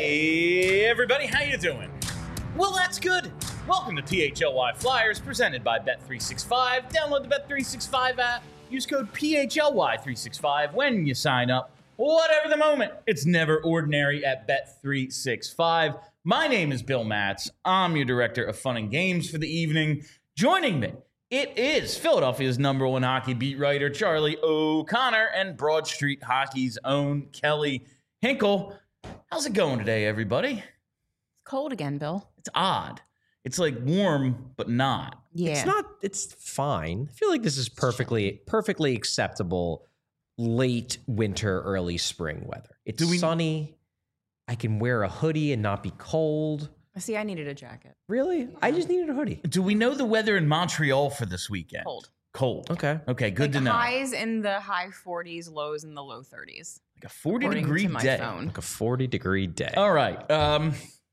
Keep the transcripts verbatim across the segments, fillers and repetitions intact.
Hey, everybody, how you doing? Well, that's good. Welcome to P H L Y Flyers, presented by Bet three sixty-five. Download the Bet three sixty-five app. Use code P H L Y three sixty-five when you sign up. Whatever the moment, it's never ordinary at Bet three sixty-five. My name is Bill Matz. I'm your director of fun and games for the evening. Joining me, it is Philadelphia's number one hockey beat writer, Charlie O'Connor, and Broad Street Hockey's own Kelly Hinkle. How's it going today, everybody? It's cold again, Bill. It's odd. It's like warm, but not. Yeah. It's not, it's fine. I feel like this is perfectly, perfectly acceptable late winter, early spring weather. It's Do we- sunny. I can wear a hoodie and not be cold. See, I needed a jacket. Really? I just needed a hoodie. Do we know the weather in Montreal for this weekend? Cold. Cold. Okay. Okay, good like to know. Highs in the high forties, lows in the low thirties. Like a forty according degree to my day. phone. Like a forty degree day. All right. Um,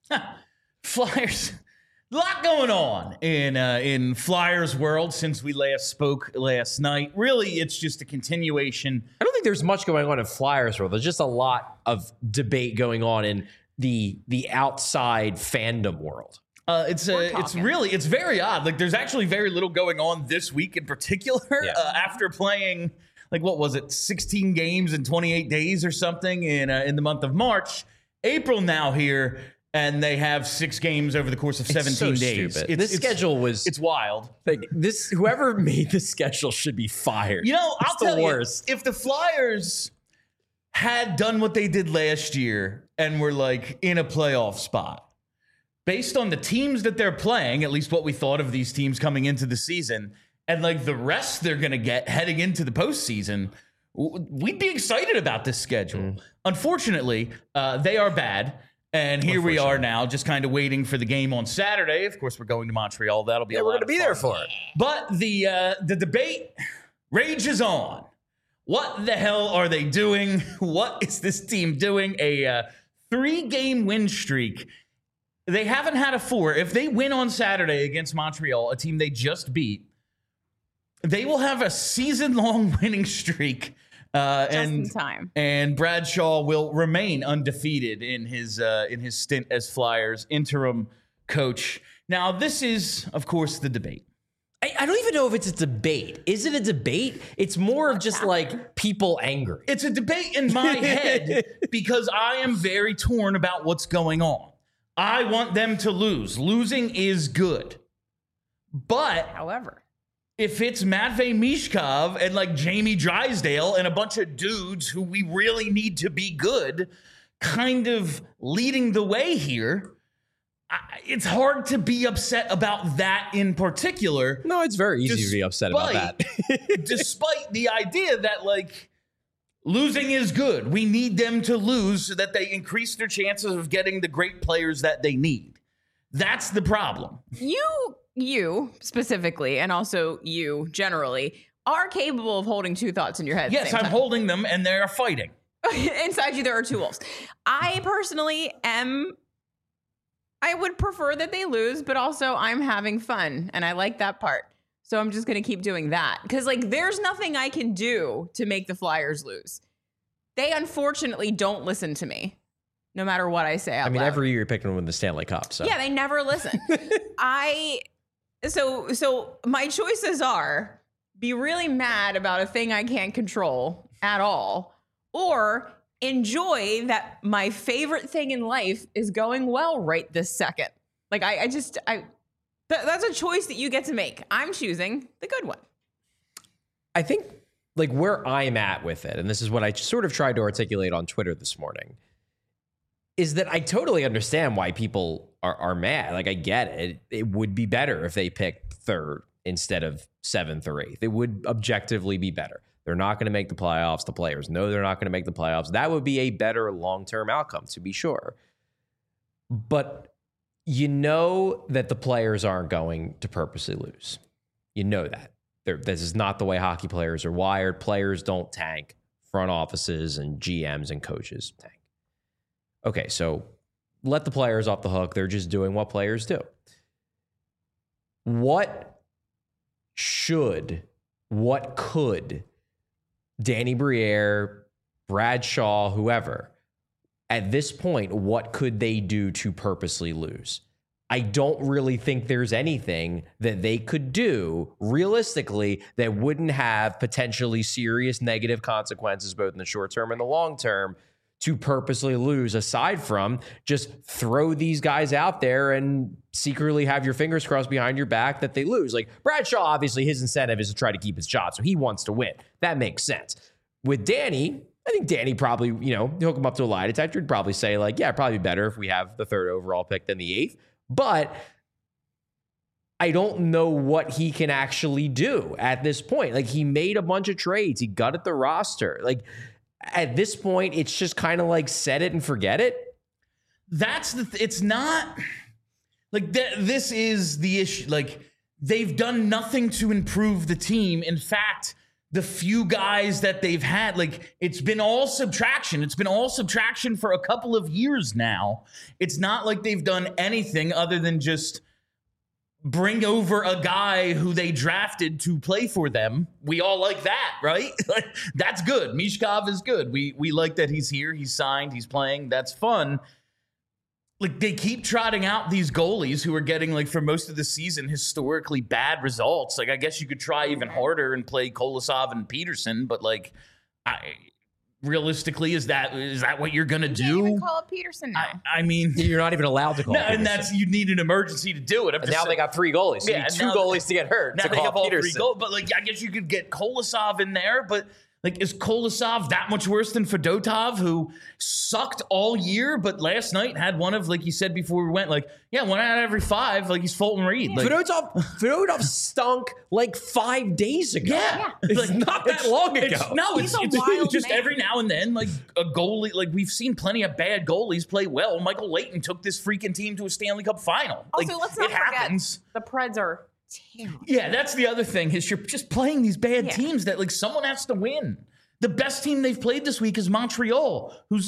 Flyers. A lot going on in uh, in Flyers world since we last spoke last night. Really, it's just a continuation. I don't think there's much going on in Flyers world. There's just a lot of debate going on in the the outside fandom world. Uh, it's We're a, it's talking. really it's very odd. Like there's actually very little going on this week in particular. Yeah. Uh, after playing like what was it, sixteen games in twenty-eight days or something in uh, in the month of March. April now here, and they have six games over the course of seventeen It's so days. stupid. It's, This it's- schedule was it's wild. like this. Whoever made the schedule should be fired. You know, It's I'll the tell worst. you, if the Flyers had done what they did last year and were like in a playoff spot, based on the teams that they're playing, at least what we thought of these teams coming into the season, and like the rest they're going to get heading into the postseason, w- we'd be excited about this schedule. Mm. Unfortunately, uh, they are bad. And here we are now, just kind of waiting for the game on Saturday. Of course, we're going to Montreal. That'll be Yeah, a we're lot gonna of be fun. there for it. But the uh, the debate rages on. What the hell are they doing? What is this team doing? A uh, three-game win streak. They haven't had a four. If they win on Saturday against Montreal, a team they just beat, they will have a season-long winning streak. Uh, Just and in time. and Bradshaw will remain undefeated in his uh, in his stint as Flyers interim coach. Now, this is, of course, the debate. I, I don't even know if it's a debate. Is it a debate? It's more of just like people angry. It's a debate in my head because I am very torn about what's going on. I want them to lose. Losing is good. But However, if it's Matvei Mishkov and like Jamie Drysdale and a bunch of dudes who we really need to be good kind of leading the way here, I, it's hard to be upset about that in particular. No, it's very easy to be upset about that. Despite the idea that like losing is good. We need them to lose so that they increase their chances of getting the great players that they need. That's the problem. you, you specifically, and also you generally, are capable of holding two thoughts in your head. at the Yes, same I'm time. holding them and they're fighting. Inside you, there are two wolves. I personally am. I would prefer that they lose, but also I'm having fun, and I like that part. So I'm just going to keep doing that because, like, there's nothing I can do to make the Flyers lose. They unfortunately don't listen to me, no matter what I say out I mean, loud. every year you're picking them to win the Stanley Cup. So Yeah, they never listen. I so so my choices are be really mad about a thing I can't control at all, or enjoy that my favorite thing in life is going well right this second. Like I, I just I th- that's a choice that you get to make. I'm choosing the good one. I think like where I'm at with it, and this is what I sort of tried to articulate on Twitter this morning, is that I totally understand why people are, are mad. Like I get it. It would be better if they picked third instead of seventh or eighth. It would objectively be better. They're not going to make the playoffs. The players know they're not going to make the playoffs. That would be a better long-term outcome, to be sure. But you know that the players aren't going to purposely lose. You know that. They're, this is not the way hockey players are wired. Players don't tank. Front offices and G Ms and coaches tank. Okay, so let the players off the hook. They're just doing what players do. What should, what could Danny Briere, Bradshaw, whoever, at this point, what could they do to purposely lose? I don't really think there's anything that they could do realistically that wouldn't have potentially serious negative consequences, both in the short term and the long term, to purposely lose, aside from just throw these guys out there and secretly have your fingers crossed behind your back that they lose. Like Bradshaw, obviously his incentive is to try to keep his job, so he wants to win. That makes sense. With Danny, I think Danny probably, you know, hook him up to a lie detector, would probably say like, yeah, it'd probably be better if we have the third overall pick than the eighth. But I don't know what he can actually do at this point. Like, he made a bunch of trades. He gutted the roster. Like, at this point, it's just kind of like set it and forget it. That's the, th- it's not like th- this is the issue. Like, they've done nothing to improve the team. In fact, the few guys that they've had, like, it's been all subtraction. It's been all subtraction for a couple of years now. It's not like they've done anything other than just bring over a guy who they drafted to play for them. We all like that, right? Like, that's good. Mishkov is good. We we like that he's here. He's signed. He's playing. That's fun. Like, they keep trotting out these goalies who are getting, like, for most of the season, historically bad results. Like, I guess you could try even harder and play Kolosov and Peterson, but, like, I realistically, is that is that what you're gonna You do? can't even call up Peterson now. I, I mean, You're not even allowed to call no, Peterson. and that's you need an emergency to do it. I'm And just now they saying- got three goalies. So Yeah, you need and two now- goalies to get hurt Now to they call have all three Peterson. goals, but like I guess you could get Kolosov in there, but like is Kolosov that much worse than Fedotov, who sucked all year, but last night had one of, like you said before we went, like yeah, one out of every five, like he's Fulton Reed. Like, Fedotov, Fedotov stunk like five days ago. yeah, It's like, not that it's- long ago. it's- no, He's it's, a it's wild just man. every now and then, like a goalie. Like we've seen plenty of bad goalies play well. Michael Leighton took this freaking team to a Stanley Cup final. Also, Like, let's not it forget happens. the Preds are terrible. Yeah, that's the other thing is you're just playing these bad Yeah. teams that like someone has to win. The best team they've played this week is Montreal, who's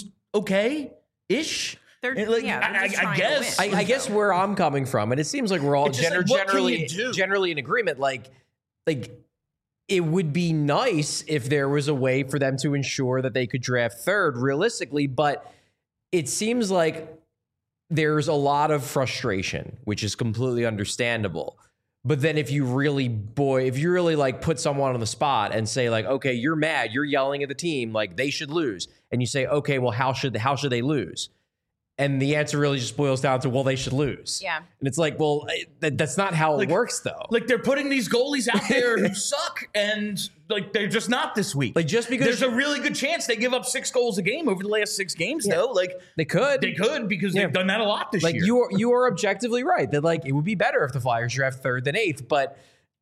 okay-ish. They're, And, like, yeah, they're I- just I trying to guess- win. I, I guess where I'm coming from, and it seems like we're all It's just gener- like, what can generally you do? generally in agreement. Like, like it would be nice if there was a way for them to ensure that they could draft third realistically, but it seems like there's a lot of frustration, which is completely understandable. But then if you really, boy, if you really like put someone on the spot and say like, okay, you're mad, you're yelling at the team, like they should lose. And you say, okay, well, how should, how should they lose? And the answer really just boils down to, well, they should lose. Yeah. And it's like, well, that, that's not how Like- it works though. Like they're putting these goalies out there who suck, and like they're just not this week. Like just because There's a really good chance they give up six goals a game over the last six games, though. Like they could, they could because Yeah. they've done that a lot this like year. you are, you are objectively right that like it would be better if the Flyers draft third than eighth, but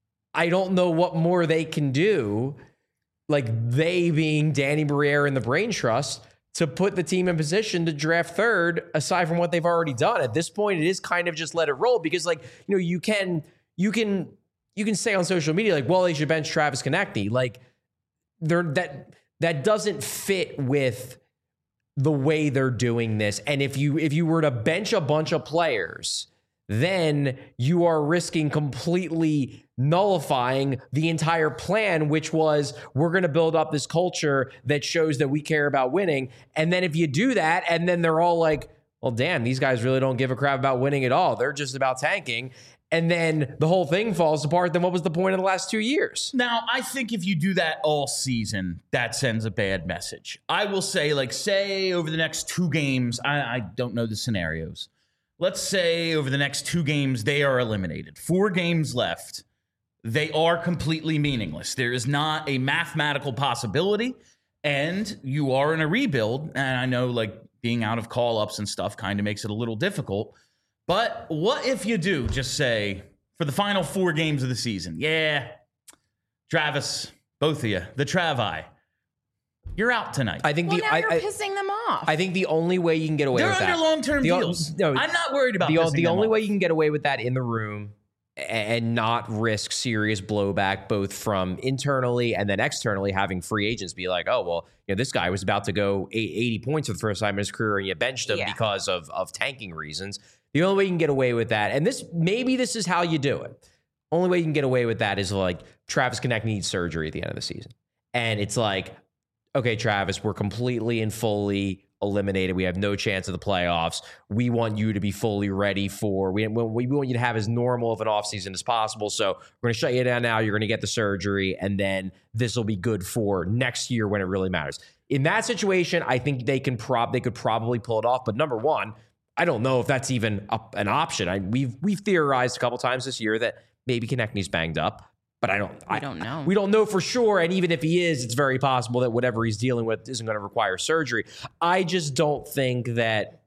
I don't know what more they can do. Like they being Danny Briere and the Brain Trust to put the team in position to draft third, aside from what they've already done. At this point, it is kind of just let it roll because, like, you know, you can, you can, you can say on social media, like, well, they should bench Travis Konechny. Like, they're that that doesn't fit with the way they're doing this. And if you if you were to bench a bunch of players, then you are risking completely nullifying the entire plan, which was we're going to build up this culture that shows that we care about winning. And then if you do that, and then they're all like, well, damn, these guys really don't give a crap about winning at all. They're just about tanking. And then the whole thing falls apart. Then what was the point of the last two years? Now, I think if you do that all season, that sends a bad message. I will say, like, say over the next two games, I, I don't know the scenarios. Let's say over the next two games, they are eliminated. Four games left. They are completely meaningless. There is not a mathematical possibility, and you are in a rebuild. And I know, like, being out of call-ups and stuff kind of makes it a little difficult. But what if you do just say, for the final four games of the season, yeah, Travis, both of you, the Travi, you're out tonight. I think Well, the now I, you're I, pissing them off. I think the only way you can get away They're with under that, long-term the o- deals. no, I'm not worried about the, pissing the them only off. way you can get away with that in the room and not risk serious blowback both from internally and then externally, having free agents be like, oh, well, you know, this guy was about to go eighty points for the first time in his career and you benched him Yeah. because of, of tanking reasons. The only way you can get away with that, and this maybe this is how you do it. Only way you can get away with that is like Travis Konechny needs surgery at the end of the season. And it's like, okay, Travis, we're completely and fully eliminated. We have no chance of the playoffs. We want you to be fully ready for, we, we want you to have as normal of an offseason as possible. So we're going to shut you down now. You're going to get the surgery, and then this will be good for next year when it really matters. In that situation, I think they can prob they could probably pull it off. But number one, I don't know if that's even a, an option. I, we've we've theorized a couple times this year that maybe Konechny's banged up. But I don't. We I don't know. We don't know for sure. And even if he is, it's very possible that whatever he's dealing with isn't going to require surgery. I just don't think that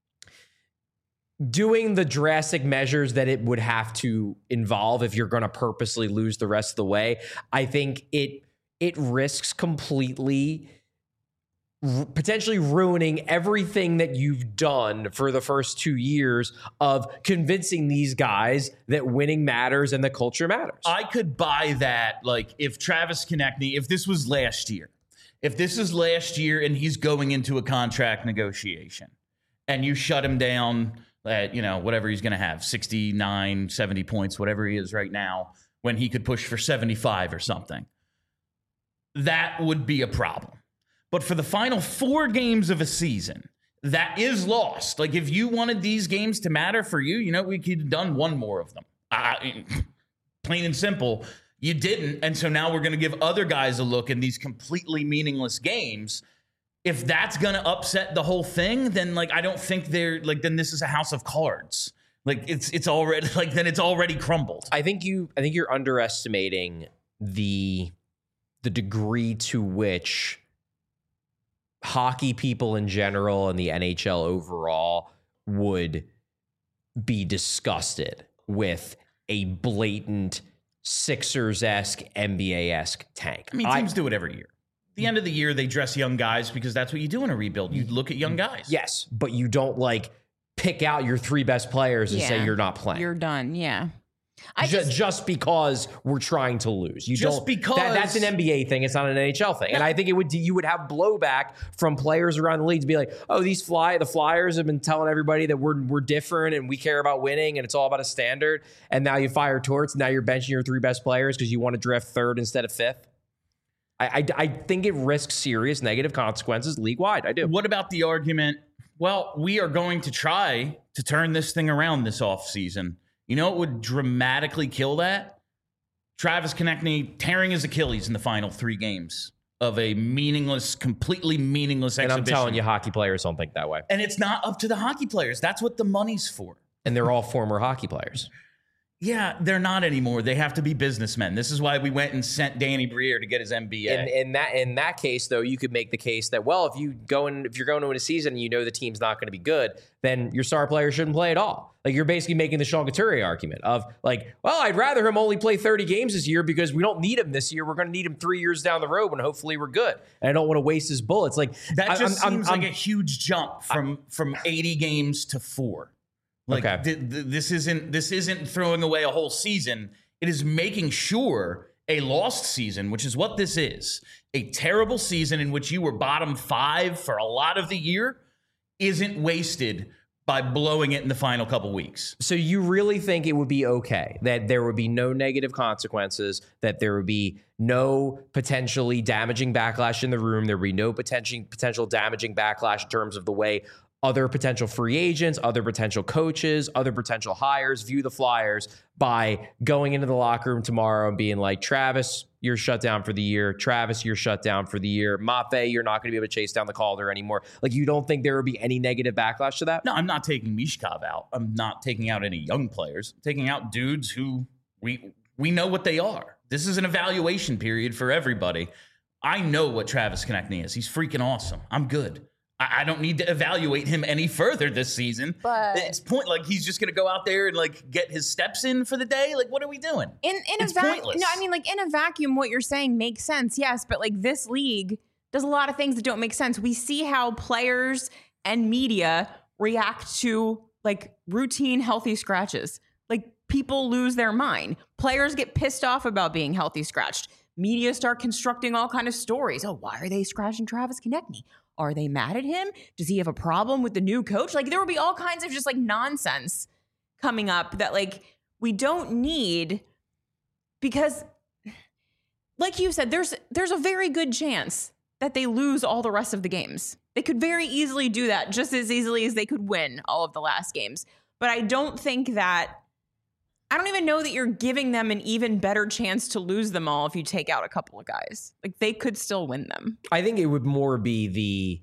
doing the drastic measures that it would have to involve if you're going to purposely lose the rest of the way, I think it it risks completely r- potentially ruining everything that you've done for the first two years of convincing these guys that winning matters and the culture matters. I could buy that, like, if Travis Konechny, if this was last year, if this is last year and he's going into a contract negotiation and you shut him down at, you know, whatever he's going to have, sixty-nine, seventy points, whatever he is right now, when he could push for seventy-five or something, that would be a problem. But for the final four games of a season, that is lost. Like, if you wanted these games to matter for you, you know, we could have done one more of them. I, plain and simple, you didn't. And so now we're going to give other guys a look in these completely meaningless games. If that's going to upset the whole thing, then, like, I don't think they're, like, then this is a house of cards. Like, it's it's already, like, then it's already crumbled. I think you, I think you're underestimating the the degree to which hockey people in general and the N H L overall would be disgusted with a blatant Sixers-esque, N B A-esque tank. I mean, teams I, do it every year. At the end of the year, they dress young guys because that's what you do in a rebuild. You look at young guys. Yes, but you don't, like, pick out your three best players and Yeah. say you're not playing. You're done. Yeah. I just, just, just because we're trying to lose. You Just don't, because- that, that's an N B A thing. It's not an N H L thing. And I think it would you would have blowback from players around the league to be like, oh, these fly the Flyers have been telling everybody that we're we're different and we care about winning and it's all about a standard. And now you fire Torts. Now you're benching your three best players because you want to draft third instead of fifth. I, I I think it risks serious negative consequences league wide. I do. What about the argument? Well, we are going to try to turn this thing around this offseason. You know what would dramatically kill that? Travis Konechny tearing his Achilles in the final three games of a meaningless, completely meaningless And exhibition. I'm telling you, hockey players don't think that way. And it's not up to the hockey players. That's what the money's for. And they're all former hockey players. Yeah, they're not anymore. They have to be businessmen. This is why we went and sent Danny Briere to get his M B A. In, in that in that case, though, you could make the case that, well, if you go in, if you're going into a season and you know the team's not going to be good, then your star player shouldn't play at all. Like, you're basically making the Sean Couturier argument of, like, well, I'd rather him only play thirty games this year because we don't need him this year. We're going to need him three years down the road when hopefully we're good. And I don't want to waste his bullets. Like, that I, just I'm, seems I'm, like I'm, a huge jump from from eighty games to four. Like, Okay. th- th- this isn't this isn't throwing away a whole season. It is making sure a lost season, which is what this is, a terrible season in which you were bottom five for a lot of the year, isn't wasted by blowing it in the final couple weeks. So you really think it would be okay that there would be no negative consequences, that there would be no potentially damaging backlash in the room, there would be no potential potential damaging backlash in terms of the way other potential free agents, other potential coaches, other potential hires view the Flyers by going into the locker room tomorrow and being like, Travis, you're shut down for the year. Travis, you're shut down for the year. Maffei, you're not going to be able to chase down the Calder anymore. Like, you don't think there would be any negative backlash to that? No, I'm not taking Mishkov out. I'm not taking out any young players. I'm taking out dudes who we we know what they are. This is an evaluation period for everybody. I know what Travis Konechny is. He's freaking awesome. I'm good. I don't need to evaluate him any further this season. But it's point like he's just going to go out there and, like, get his steps in for the day. Like, what are we doing? in in It's a vacuum, pointless. no, I mean, like, in a vacuum, what you're saying makes sense, yes. But, like, this league does a lot of things that don't make sense. We see how players and media react to, like, routine healthy scratches. Like, people lose their mind. Players get pissed off about being healthy scratched. Media start constructing all kind of stories. Oh, why are they scratching Travis Konechny? Are they mad at him? Does he have a problem with the new coach? Like, there will be all kinds of just, like, nonsense coming up that, like, we don't need, because, like you said, there's there's a very good chance that they lose all the rest of the games. They could very easily do that, just as easily as they could win all of the last games. But I don't think that, I don't even know that you're giving them an even better chance to lose them all if you take out a couple of guys. Like, they could still win them. I think it would more be the,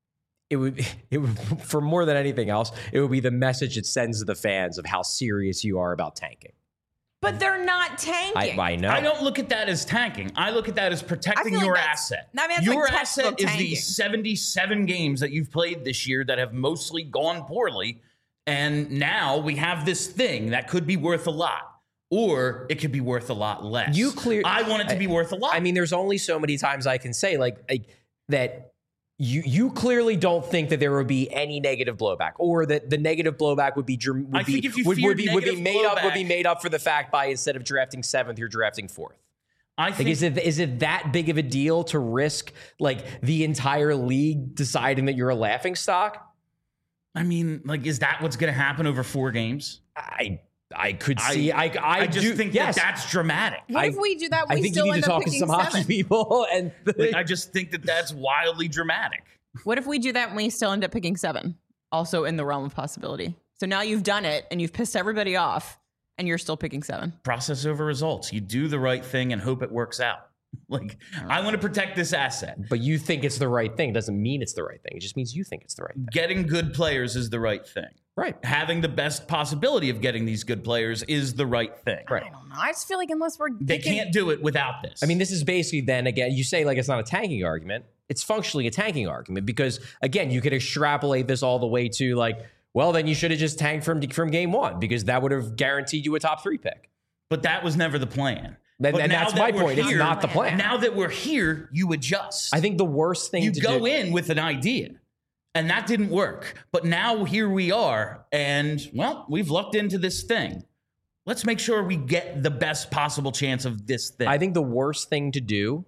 it would, it would, for more than anything else, it would be the message it sends to the fans of how serious you are about tanking. But they're not tanking. I, I know. I don't look at that as tanking. I look at that as protecting like your that's- asset. I mean, that's your like asset textbook is tanking. the seventy-seven games that you've played this year that have mostly gone poorly. And now we have this thing that could be worth a lot, or it could be worth a lot less. You clear. I want it to be I, worth a lot. I mean, there's only so many times I can say like, like that. You you clearly don't think that there would be any negative blowback, or that the negative blowback would be would I be think if you would, feared would be would be negative made up would be blowback- made up for the fact by instead of drafting seventh, you're drafting fourth. I Like, think is it is it that big of a deal to risk like the entire league deciding that you're a laughing stock? I mean, like, is that what's going to happen over four games? I I could see. I I, I just do, think yes. that that's dramatic. What I- if we do that? I We think you still need to end talk up to picking some hockey seven. people, and Like, I just think that that's wildly dramatic. What if we do that and we still end up picking seven? Also in the realm of possibility. So now you've done it and you've pissed everybody off and you're still picking seven. Process over results. You do the right thing and hope it works out. Like, I want to protect this asset. but you think it's the right thing. It doesn't mean it's the right thing. It just means you think it's the right thing. Getting good players is the right thing. Right. Having the best possibility of getting these good players is the right thing. Right. I don't know. I just feel like unless we're They picking- can't do it without this. I mean, this is basically then again, you say like it's not a tanking argument. It's functionally a tanking argument because again, you could extrapolate this all the way to like, well, then you should have just tanked from from game one because that would have guaranteed you a top three pick. but that was never the plan. And, But and now that's that my we're point. It's here- not the plan. Now that we're here, you adjust. I think the worst thing you to go do. in with an idea, and that didn't work. But now here we are, and well, we've lucked into this thing. Let's make sure we get the best possible chance of this thing. I think the worst thing to do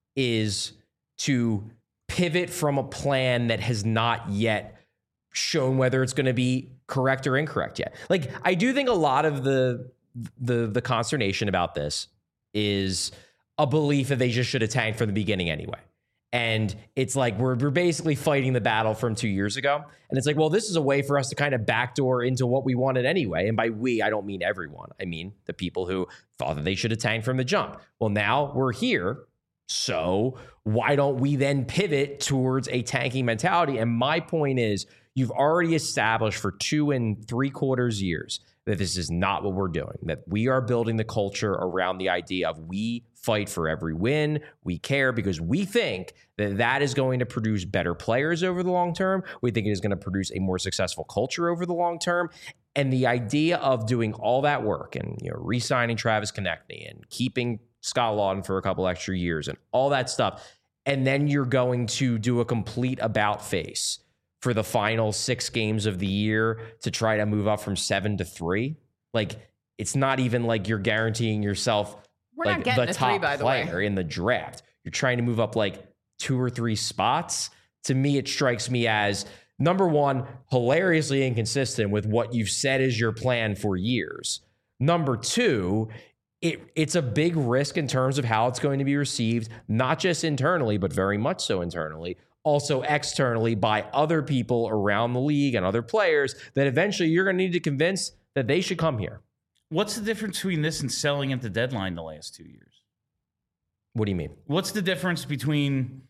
is to pivot from a plan that has not yet shown whether it's going to be correct or incorrect yet. Like, I do think a lot of the the the consternation about this is a belief that they just should have tanked from the beginning anyway. And it's like we're we're basically fighting the battle from two years ago. And it's like, well, this is a way for us to kind of backdoor into what we wanted anyway. And by we, I don't mean everyone. I mean the people who thought that they should have tanked from the jump. Well, now we're here. So why don't we then pivot towards a tanking mentality? And my point is, you've already established for two and three quarters years that this is not what we're doing, that we are building the culture around the idea of we fight for every win. We care because we think that that is going to produce better players over the long term. We think it is going to produce a more successful culture over the long term. And the idea of doing all that work and, you know, re-signing Travis Konechny and keeping Scott Lawton for a couple extra years and all that stuff, and then you're going to do a complete about face for the final six games of the year to try to move up from seven to three. Like, it's not even like you're guaranteeing yourself We're like not getting the a three, top by the way. player in the draft. You're trying to move up like two or three spots. To me, it strikes me as, number one, hilariously inconsistent with what you've said is your plan for years. Number two, it, it's a big risk in terms of how it's going to be received, not just internally, but very much so internally, also externally by other people around the league and other players that eventually you're going to need to convince that they should come here. What's the difference between this and selling at the deadline the last two years? What do you mean? What's the difference between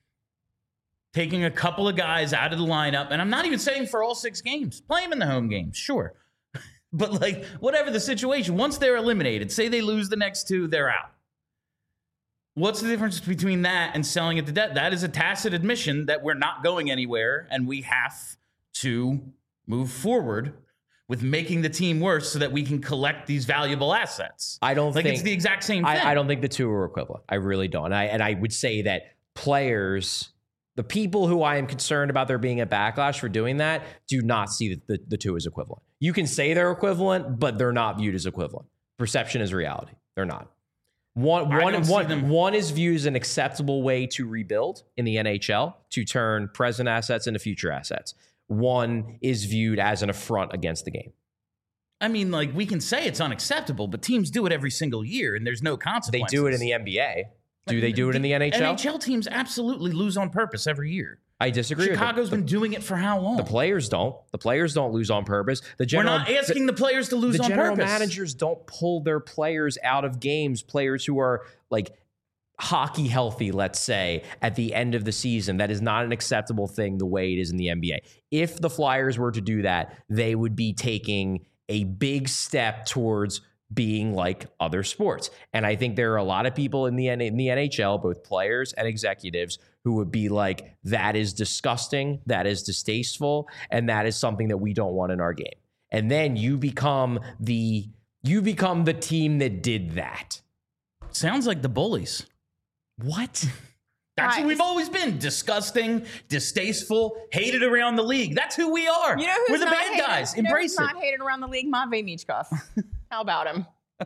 taking a couple of guys out of the lineup, and I'm not even saying for all six games, play them in the home games, sure. But like, whatever the situation, once they're eliminated, say they lose the next two, they're out. What's the difference between that and selling at the debt? That is a tacit admission that we're not going anywhere, and we have to move forward with making the team worse so that we can collect these valuable assets. I don't like think it's the exact same thing. I, I don't think the two are equivalent. I really don't. And I, and I would say that players, the people who I am concerned about there being a backlash for doing that, do not see the, the, the two as equivalent. You can say they're equivalent, but they're not viewed as equivalent. Perception is reality. They're not. One, I one, don't see one, them- one is viewed as an acceptable way to rebuild in the N H L, to turn present assets into future assets. One is viewed as an affront against the game. I mean, like, we can say it's unacceptable, but teams do it every single year, and there's no They consequences. do it in the N B A. Do they do it in the N H L? N H L teams absolutely lose on purpose every year. I disagree. Chicago's with been doing it for how long? The players don't. The players don't lose on purpose. The general, We're not asking the, the players to lose the on general purpose. managers don't pull their players out of games. Players who are like hockey healthy, let's say, at the end of the season. That is not an acceptable thing the way it is in the N B A. If the Flyers were to do that, they would be taking a big step towards being like other sports. And I think there are a lot of people in the in the N H L, both players and executives, who would be like, that is disgusting, that is distasteful, and that is something that we don't want in our game. And then you become the you become the team that did that. Sounds like the bullies. What? That's Right. who we've always been. Disgusting, distasteful, hated around the league. That's who we are. You know who's We're the not bad hated? guys. You know Embrace who's it. not hated around the league? Matvei Michkov. How about him?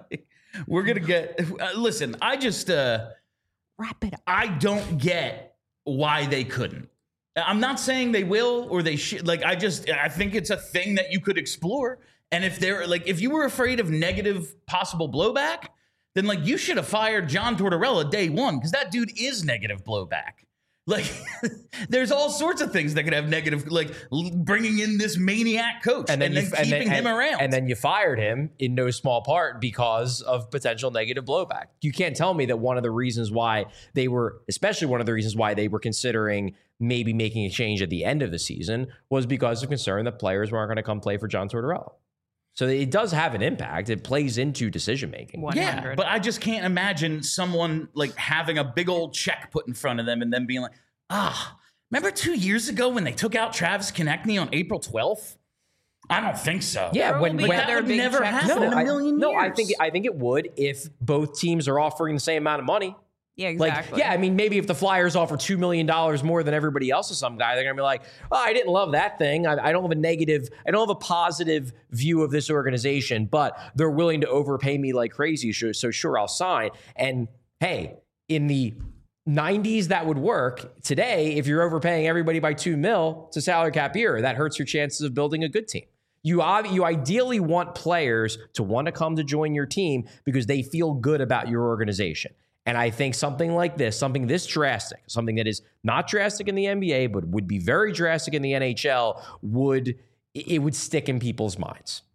We're going to get... Uh, listen, I just... Uh, Wrap it up. I don't get why they couldn't. I'm not saying they will or they should. Like, I just... I think it's a thing that you could explore. And if they're... Like, if you were afraid of negative possible blowback, then, like, you should have fired John Tortorella day one, because that dude is negative blowback. Like, there's all sorts of things that could have negative, like l- bringing in this maniac coach and then, and then you, keeping and him then, around. And then you fired him in no small part because of potential negative blowback. You can't tell me that one of the reasons why they were, especially one of the reasons why they were considering maybe making a change at the end of the season, was because of concern that players weren't going to come play for John Tortorella. So it does have an impact. It plays into decision making. Yeah, but I just can't imagine someone like having a big old check put in front of them and then being like, ah, remember two years ago when they took out Travis Konechny on April twelfth? I don't think so. Yeah, when, Like when that would never happen no, in a I, million no, years. I think I think it would if both teams are offering the same amount of money. Yeah, Like, exactly. yeah, I mean, maybe if the Flyers offer two million dollars more than everybody else to some guy, they're going to be like, oh, I didn't love that thing. I, I don't have a negative, I don't have a positive view of this organization, but they're willing to overpay me like crazy. So sure, I'll sign. And hey, in the nineties, that would work. Today, if you're overpaying everybody by two mil to salary cap era, that hurts your chances of building a good team. You, you ideally want players to want to come to join your team because they feel good about your organization. And I think something like this, something this drastic, something that is not drastic in the N B A, but would be very drastic in the N H L, would it would stick in people's minds.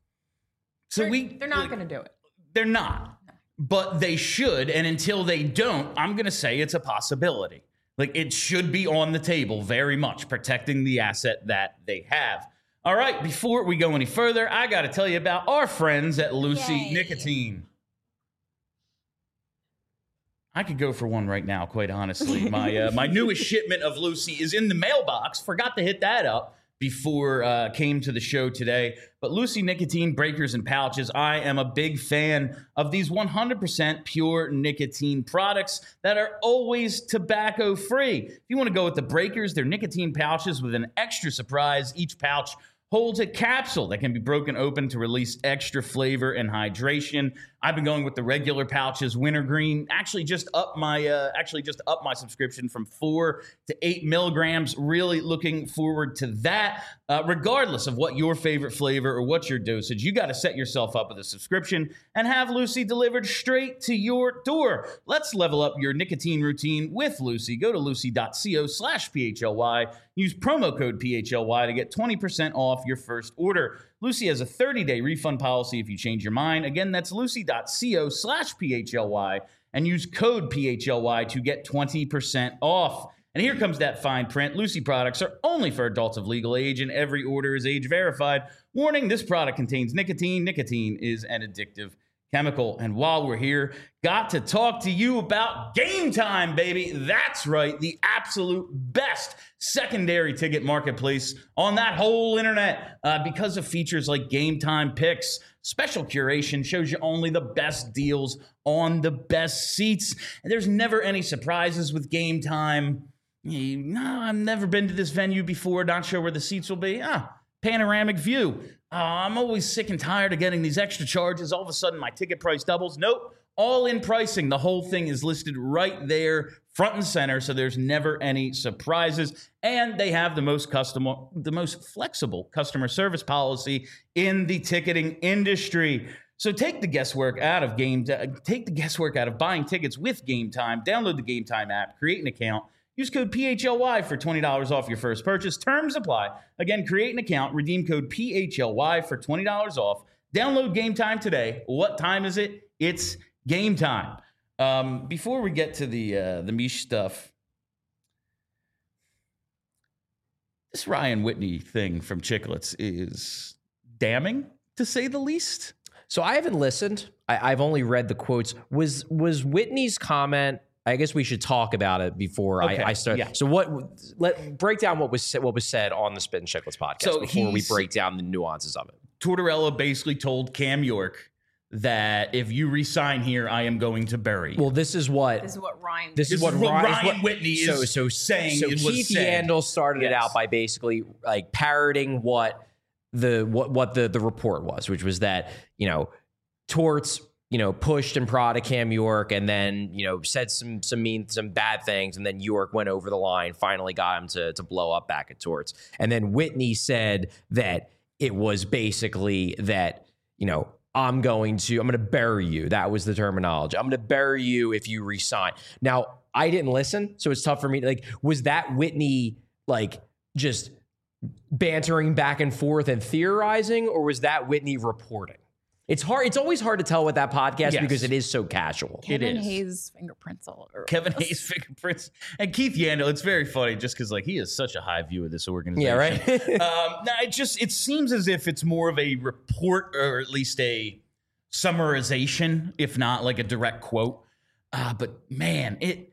So they're, we they're not like, going to do it. They're not, but they should. And until they don't, I'm going to say it's a possibility. Like, it should be on the table very much, protecting the asset that they have. All right, before we go any further, I got to tell you about our friends at Lucy Yay. Nicotine. I could go for one right now, quite honestly. My uh, my newest shipment of Lucy is in the mailbox. Forgot to hit that up before uh, came to the show today. But Lucy Nicotine breakers and pouches, I am a big fan of these one hundred percent pure nicotine products that are always tobacco free. If you want to go with the breakers, they're nicotine pouches with an extra surprise. Each pouch holds a capsule that can be broken open to release extra flavor and hydration. I've been going with the regular pouches, wintergreen. Actually, just up my uh, actually just up my subscription from four to eight milligrams. Really looking forward to that. Uh, regardless of what your favorite flavor or what's your dosage, you got to set yourself up with a subscription and have Lucy delivered straight to your door. Let's level up your nicotine routine with Lucy. Go to lucy.co slash PHLY. Use promo code P H L Y to get twenty percent off your first order. Lucy has a thirty-day refund policy if you change your mind. Again, that's lucy.co slash PHLY and use code P H L Y to get twenty percent off. And here comes that fine print. Lucy products are only for adults of legal age, and every order is age verified. Warning, this product contains nicotine. Nicotine is an addictive chemical. And while we're here, got to talk to you about Game Time, baby. That's right, the absolute best secondary ticket marketplace on that whole internet. Uh, because of features like Game Time Picks, special curation shows you only the best deals on the best seats. And there's never any surprises with Game Time. You, no, I've never been to this venue before, not sure where the seats will be. Ah, panoramic view. Uh, I'm always sick and tired of getting these extra charges. All of a sudden, my ticket price doubles. Nope. All in pricing. The whole thing is listed right there, front and center, so there's never any surprises. And they have the most customer, the most flexible customer service policy in the ticketing industry. So take the guesswork out of game. Take the guesswork out of buying tickets with Game Time. Download the Game Time app, create an account, use code P H L Y for twenty dollars off your first purchase. Terms apply. Again, create an account, redeem code P H L Y for twenty dollars off. Download Game Time today. What time is it? It's game time. Um, before we get to the uh, the Mish stuff, this Ryan Whitney thing from Chicklets is damning, to say the least. So I haven't listened. I, I've only read the quotes. Was was Whitney's comment? I guess we should talk about it before Okay, I, I start. yeah. So what? Let break down what was said, what was said on the Spit and Chicklets podcast So before we he's- break down the nuances of it. Tortorella basically told Cam York that if you resign here, I am going to bury you. Well, this is what This is what Ryan. This, This is what, is what Ryan, Ryan what- Whitney is so, so, saying So it was Keith said. Yandel started it Yes. out by basically like parroting what the what what the the report was, which was that you know Torts you know pushed and prodded Cam York, and then you know said some some mean some bad things, and then York went over the line, finally got him to to blow up back at Torts, and then Whitney said that it was basically that you know. I'm going to, I'm going to bury you. That was the terminology. I'm going to bury you if you resign. Now, I didn't listen, so it's tough for me. Like, was that Whitney, like, just bantering back and forth and theorizing, or was that Whitney reporting? It's hard. It's always hard to tell with that podcast Yes. because it is so casual. Kevin is. Hayes fingerprints all over. Kevin Hayes fingerprints and Keith Yandel. It's very funny just because like he has such a high view of this organization. Yeah, right? um, no, it just it seems as if it's more of a report or at least a summarization, if not like a direct quote. Uh, but man, it.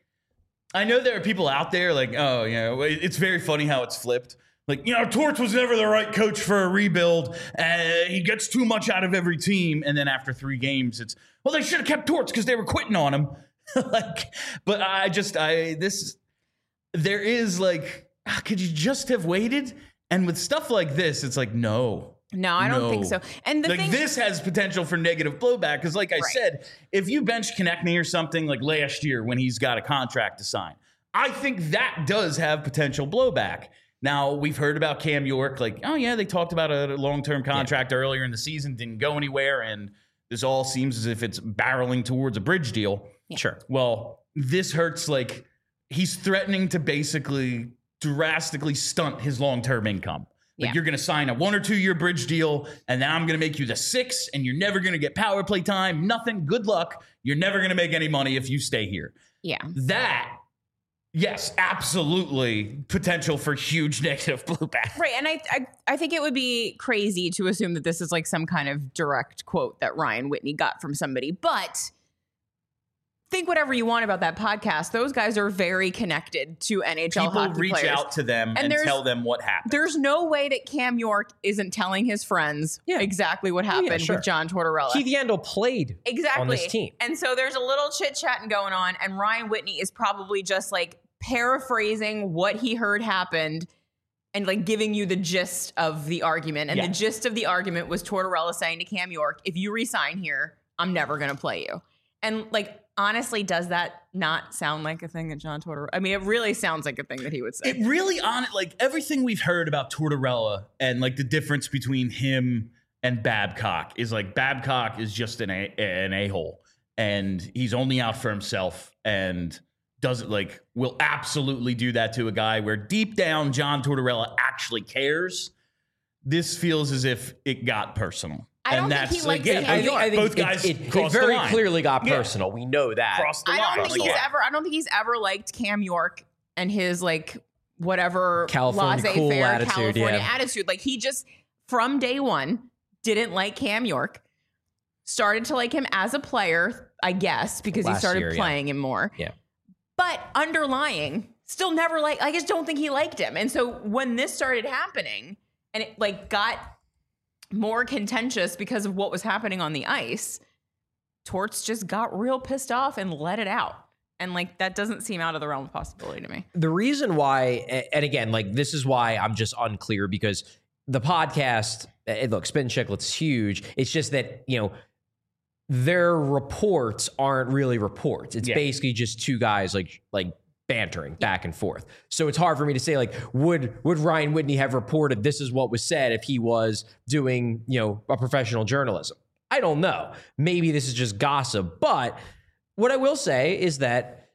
I know there are people out there like, oh, you know, it- it's very funny how it's flipped. Like, you know, Torts was never the right coach for a rebuild. Uh, he gets too much out of every team. And then after three games, it's, well, they should have kept Torts because they were quitting on him. like, but I just, I, this, there is like, ah, could you just have waited? And with stuff like this, it's like, no. No, I don't No. think so. And the like thing, this has potential for negative blowback because, like I Right. said, if you bench Konechny or something like last year when he's got a contract to sign, I think that does have potential blowback. Now we've heard about Cam York, like, oh yeah, they talked about a long-term contract yeah. earlier in the season, didn't go anywhere, and this all seems as if it's barreling towards a bridge deal. Yeah. Sure. Well, this hurts. Like he's threatening to basically drastically stunt his long-term income. Like Yeah. you're going to sign a one or two year bridge deal, and then I'm going to make you the six, and you're never going to get power play time. Nothing. Good luck. You're never going to make any money if you stay here. yeah. That, yes, absolutely potential for huge negative blowback. Right. And I, I I think it would be crazy to assume that this is like some kind of direct quote that Ryan Whitney got from somebody. But think whatever you want about that podcast. Those guys are very connected to N H L People hockey reach players. out to them and, And there's- tell them what happened. There's no way that Cam York isn't telling his friends Yeah. exactly what yeah, happened sure. with John Tortorella. Keith Yandel played Exactly. on this team. And so there's a little chit chatting going on, and Ryan Whitney is probably just like paraphrasing what he heard happened and like giving you the gist of the argument. And Yeah. the gist of the argument was Tortorella saying to Cam York, if you resign here, I'm never going to play you. And like, honestly, does that not sound like a thing that John Tortorella, I mean, it really sounds like a thing that he would say. It really on it, like everything we've heard about Tortorella and like the difference between him and Babcock is like Babcock is just an a, an a-hole and he's only out for himself and doesn't like will absolutely do that to a guy where deep down John Tortorella actually cares. This feels as if it got personal. I don't and think he that's like, likes yeah, Cam I think, York. I think both it- guys it, it, crossed the very line. clearly got Yeah. personal. We know that. Crossed the I line. don't think Like, he's yeah. ever. I don't think he's ever liked Cam York and his like whatever California cool laissez-faire attitude, California yeah. attitude. Like he just from day one didn't like Cam York. Started to like him as a player, I guess, because he Last started year, yeah. playing him more. Yeah. But underlying, still never like. I just don't think he liked him. And so when this started happening, and it like got more contentious because of what was happening on the ice, Torts just got real pissed off and let it out. And like that doesn't seem out of the realm of possibility to me. The reason why, and again, like this is why I'm just unclear because the podcast, eh, look, Spin Chicklets is huge. It's just that, you know, their reports aren't really reports. It's Yeah. basically just two guys like like bantering back and forth. So it's hard for me to say like, would would Ryan Whitney have reported this is what was said if he was doing, you know, a professional journalism? I don't know. Maybe this is just gossip. But what I will say is that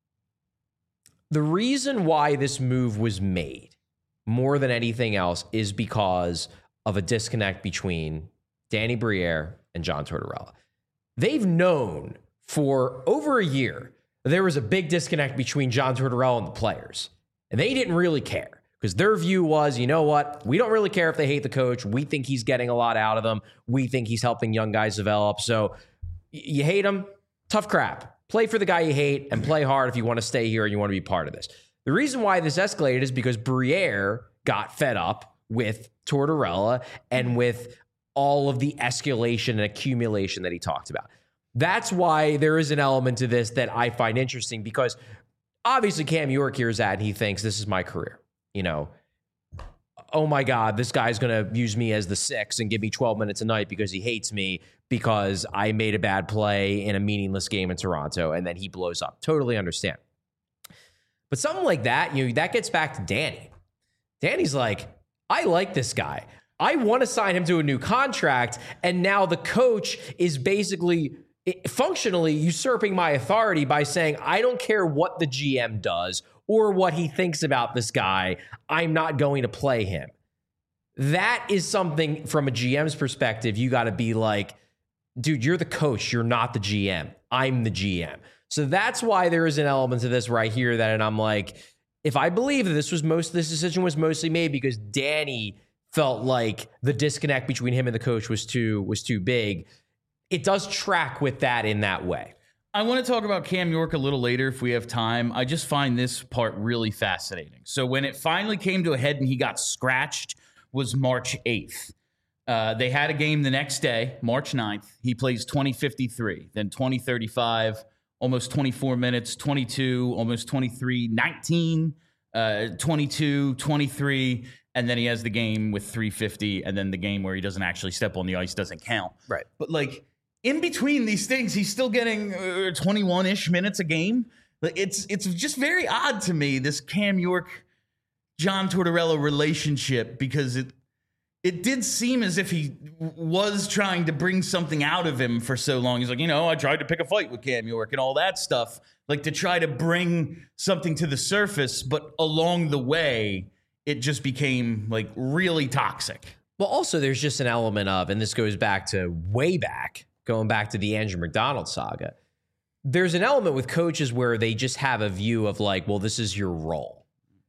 the reason why this move was made more than anything else is because of a disconnect between Danny Briere and John Tortorella. They've known for over a year there was a big disconnect between John Tortorella and the players. And they didn't really care because their view was, you know what? We don't really care if they hate the coach. We think he's getting a lot out of them. We think he's helping young guys develop. So y- you hate him, tough crap. Play for the guy you hate and play hard if you want to stay here and you want to be part of this. The reason why this escalated is because Briere got fed up with Tortorella and with all of the escalation and accumulation that he talked about. That's why there is an element to this that I find interesting because obviously Cam York hears that and he thinks this is my career. You know, oh my God, this guy's going to use me as the six and give me twelve minutes a night because he hates me because I made a bad play in a meaningless game in Toronto and then he blows up. Totally understand. But something like that, you know, that gets back to Danny. Danny's like, I like this guy. I want to sign him to a new contract. And now the coach is basically functionally usurping my authority by saying, I don't care what the G M does or what he thinks about this guy. I'm not going to play him. That is something from a G M's perspective. You got to be like, dude, you're the coach. You're not the G M. I'm the G M. So that's why there is an element to this right here that, and I'm like, if I believe that this was most, this decision was mostly made because Danny felt like the disconnect between him and the coach was too, was too big. It does track with that in that way. I want to talk about Cam York a little later if we have time. I just find this part really fascinating. So when it finally came to a head and he got scratched was March eighth. Uh, they had a game the next day, March ninth. He plays twenty fifty-three, then twenty thirty-five, almost twenty-four minutes, twenty-two, almost twenty-three, nineteen, uh, twenty-two, twenty-three, and then he has the game with three fifty, and then the game where he doesn't actually step on the ice doesn't count. Right. But like, in between these things, he's still getting uh, twenty-one-ish minutes a game. Like it's it's just very odd to me, this Cam York, John Tortorella relationship, because it it did seem as if he was trying to bring something out of him for so long. He's like, you know, I tried to pick a fight with Cam York and all that stuff, like to try to bring something to the surface. But along the way, it just became like really toxic. Well, also, there's just an element of, and this goes back to way back, going back to the Andrew McDonald saga, there's an element with coaches where they just have a view of like, well, this is your role.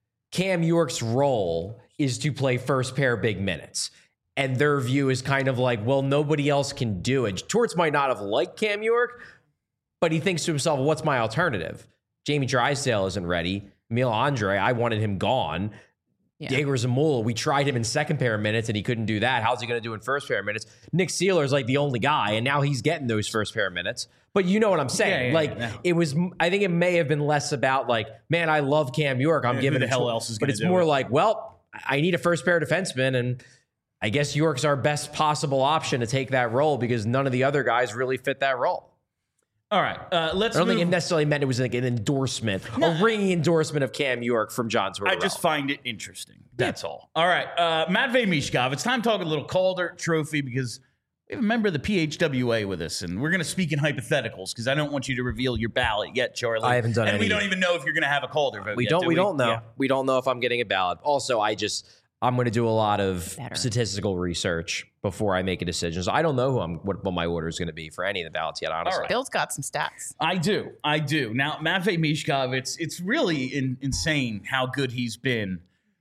Cam York's role is to play first pair big minutes. And their view is kind of like, well, nobody else can do it. Torts might not have liked Cam York, but he thinks to himself, what's my alternative? Jamie Drysdale isn't ready. Emil Andre, I wanted him gone. Yeah. Diego Zamula, we tried him in second pair minutes and he couldn't do that. How's he going to do in first pair minutes? Nick Seeler's like the only guy, and now he's getting those first pair minutes. But you know what I'm saying? Yeah, yeah, like, yeah. it was, I think it may have been less about like, man, I love Cam York. I'm yeah, giving who the it hell to, else is But it's do more it? like, well, I need a first pair defenseman, and I guess York's our best possible option to take that role because none of the other guys really fit that role. All right, uh, let's. I don't move. think it necessarily meant it was like an endorsement, no. a ringing endorsement of Cam York from John Tortorella. I just find it interesting. That's yeah. all. All right, uh, Matvei Michkov. It's time to talk a little Calder Trophy because we have a member of the P H W A with us, and we're going to speak in hypotheticals because I don't want you to reveal your ballot yet, Charlie. I haven't done it, and any we don't yet. even know if you're going to have a Calder vote. We yet, don't. do we, we don't know. Yeah. We don't know if I'm getting a ballot. Also, I just. I'm going to do a lot of Better. statistical research before I make a decision. So I don't know who I'm, what, what my order is going to be for any of the ballots yet, honestly. Right. Bill's got some stats. I do. I do. Now, Matvei Michkov, it's it's really in, insane how good he's been.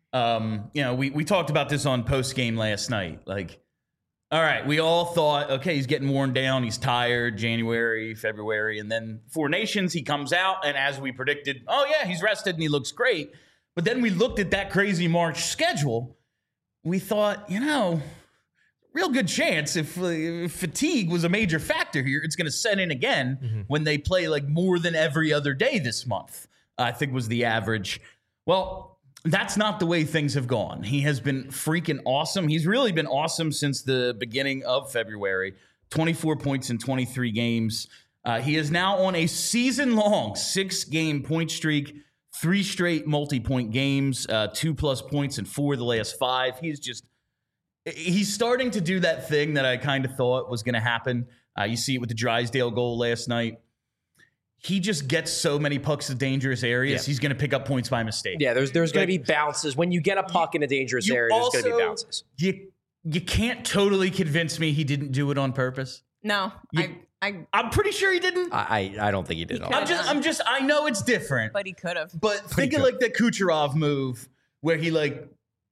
Um, you know, we, we talked about this on post-game last night. Like, all right, we all thought, okay, he's getting worn down. He's tired, January, February. And then Four Nations, he comes out. And as we predicted, oh, yeah, he's rested and he looks great. But then we looked at that crazy March schedule. We thought, you know, real good chance if, uh, if fatigue was a major factor here, it's going to set in again mm-hmm. when they play like more than every other day this month, I think was the average. Well, that's not the way things have gone. He has been freaking awesome. He's really been awesome since the beginning of February. twenty-four points in twenty-three games. Uh, he is now on a season-long six-game point streak. Three straight multi-point games, uh, two plus points in four of the last five. He's just he's starting to do that thing that I kind of thought was going to happen. Uh, you see it with the Drysdale goal last night. He just gets so many pucks to dangerous areas. Yeah. He's going to pick up points by mistake. Yeah, there's there's going to be bounces. When you get a puck in a dangerous area, there's going to be bounces. You, you can't totally convince me he didn't do it on purpose. No, you, I, I, I'm pretty sure he didn't. I, I don't think he did. He I'm just, I'm just, I know it's different. But he could have. But, but think of like the Kucherov move where he like,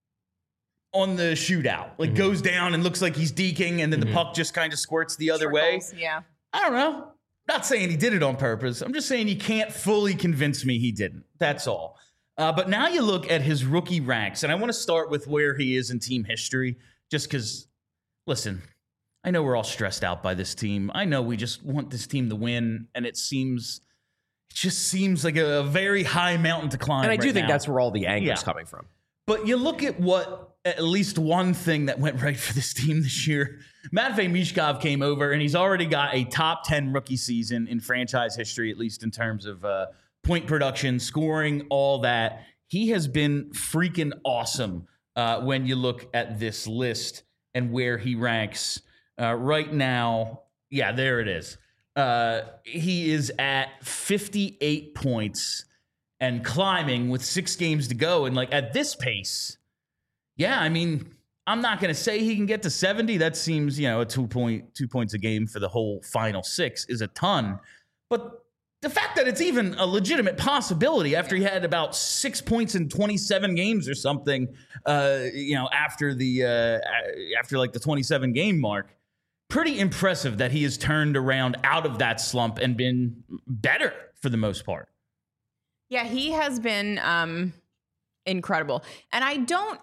on the shootout, like mm-hmm. goes down and looks like he's deking, and then mm-hmm. the puck just kind of squirts the other Trickles, way. Yeah. I don't know. Not saying he did it on purpose. I'm just saying you can't fully convince me he didn't. That's all. Uh, but now you look at his rookie ranks, and I want to start with where he is in team history, just because, listen, I know we're all stressed out by this team. I know we just want this team to win, and it seems, it just seems like a very high mountain to climb. And I do right think now. that's where all the anger yeah. is coming from. But you look at what, at least one thing that went right for this team this year. Matvei Michkov came over, and he's already got a top ten rookie season in franchise history, at least in terms of uh, point production, scoring, all that. He has been freaking awesome uh, when you look at this list and where he ranks. Uh, right now, yeah, there it is. Uh, he is at fifty-eight points and climbing with six games to go. And like at this pace, yeah, I mean, I'm not going to say he can get to seventy. That seems, you know, a two point two points a game for the whole final six is a ton. But the fact that it's even a legitimate possibility after he had about six points in twenty-seven games or something, uh, you know, after the uh, after like the twenty-seven game mark, pretty impressive that he has turned around out of that slump and been better for the most part. Yeah, he has been um, incredible. And I don't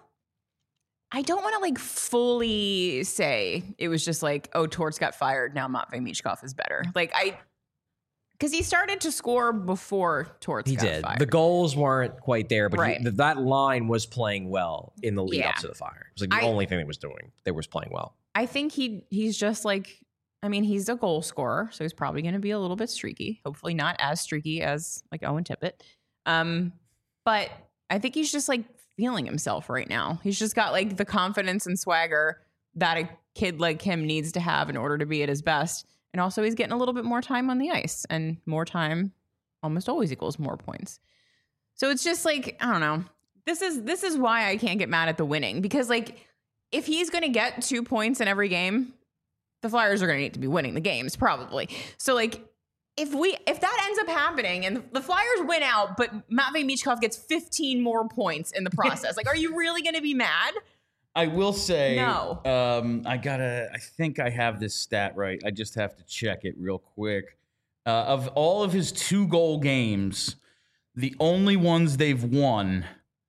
I don't want to like fully say it was just like, oh, Torts got fired. Now Matvei Michkov is better. Like I, because he started to score before Torts he got did. fired. The goals weren't quite there, but right. he, that line was playing well in the lead yeah. up to the fire. It was like the I, only thing that was doing. That was playing well. I think he he's just like, I mean, he's a goal scorer, so he's probably going to be a little bit streaky. Hopefully not as streaky as like Owen Tippett. Um, but I think he's just like feeling himself right now. He's just got like the confidence and swagger that a kid like him needs to have in order to be at his best. And also he's getting a little bit more time on the ice, and more time almost always equals more points. So it's just like, I don't know. This is, this is why I can't get mad at the winning, because like if he's going to get two points in every game, the Flyers are going to need to be winning the games probably. So like, If we if that ends up happening and the Flyers win out, but Matvei Michkov gets fifteen more points in the process, like, are you really going to be mad? I will say, no. Um, I gotta. I think I have this stat right. I just have to check it real quick. Uh, of all of his two goal games, the only ones they've won,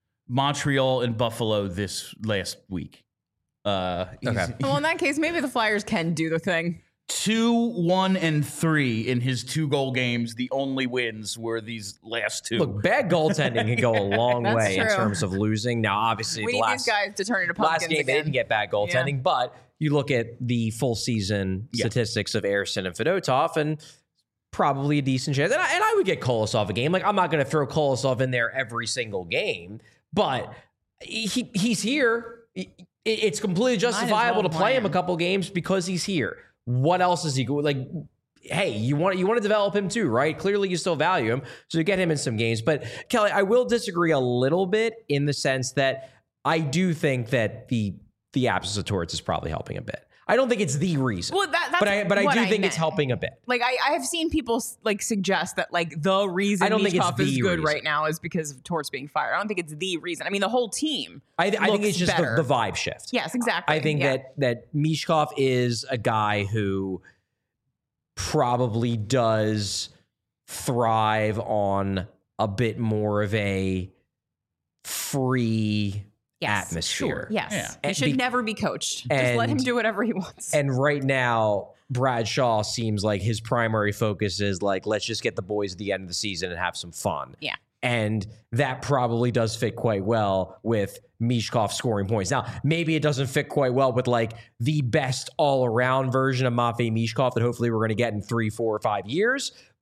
Montreal and Buffalo this last week. Uh, okay. Well, in that case, maybe the Flyers can do the thing. Two, one, and three in his two goal games. The only wins were these last two. Look, bad goaltending can go a long That's way true. in terms of losing. Now, obviously, we the need last, these guys to turn into pumpkins last game again. they didn't get bad goaltending, Yeah. but you look at the full season Yeah. statistics of Ersson and Fedotov, and probably a decent chance. And I, and I would get Kolosov a game. Like, I'm not going to throw Kolosov in there every single game, but he he's here. It, it's completely justifiable well to play him a plan. couple games because he's here. What else is he going? Like, hey, you want you want to develop him too, right? Clearly, you still value him, so you get him in some games. But Kelly, I will disagree a little bit in the sense that I do think that the the absence of Torts is probably helping a bit. I don't think it's the reason, Well, that, that's but I but I what do I think meant. it's helping a bit. Like I, I have seen people like suggest that like the reason I don't think it's Michkov is the good reason. right now is because of Torts being fired. I don't think it's the reason. I mean, the whole team. I, I think looks it's just the, better. the vibe shift. Yes, exactly. I think Yeah. that that Michkov is a guy who probably does thrive on a bit more of a free Yes, atmosphere. Sure. Yes. Yeah. He And should be- never be coached. Just let him and- do whatever he wants. And right now, Brad Shaw seems like his primary focus is like, let's just get the boys at the end of the season and have some fun. Yeah. And that probably does fit quite well with Michkov scoring points. Now, maybe it doesn't fit quite well with like the best all-around version of Matvei Michkov that hopefully we're going to get in three, four, or five years.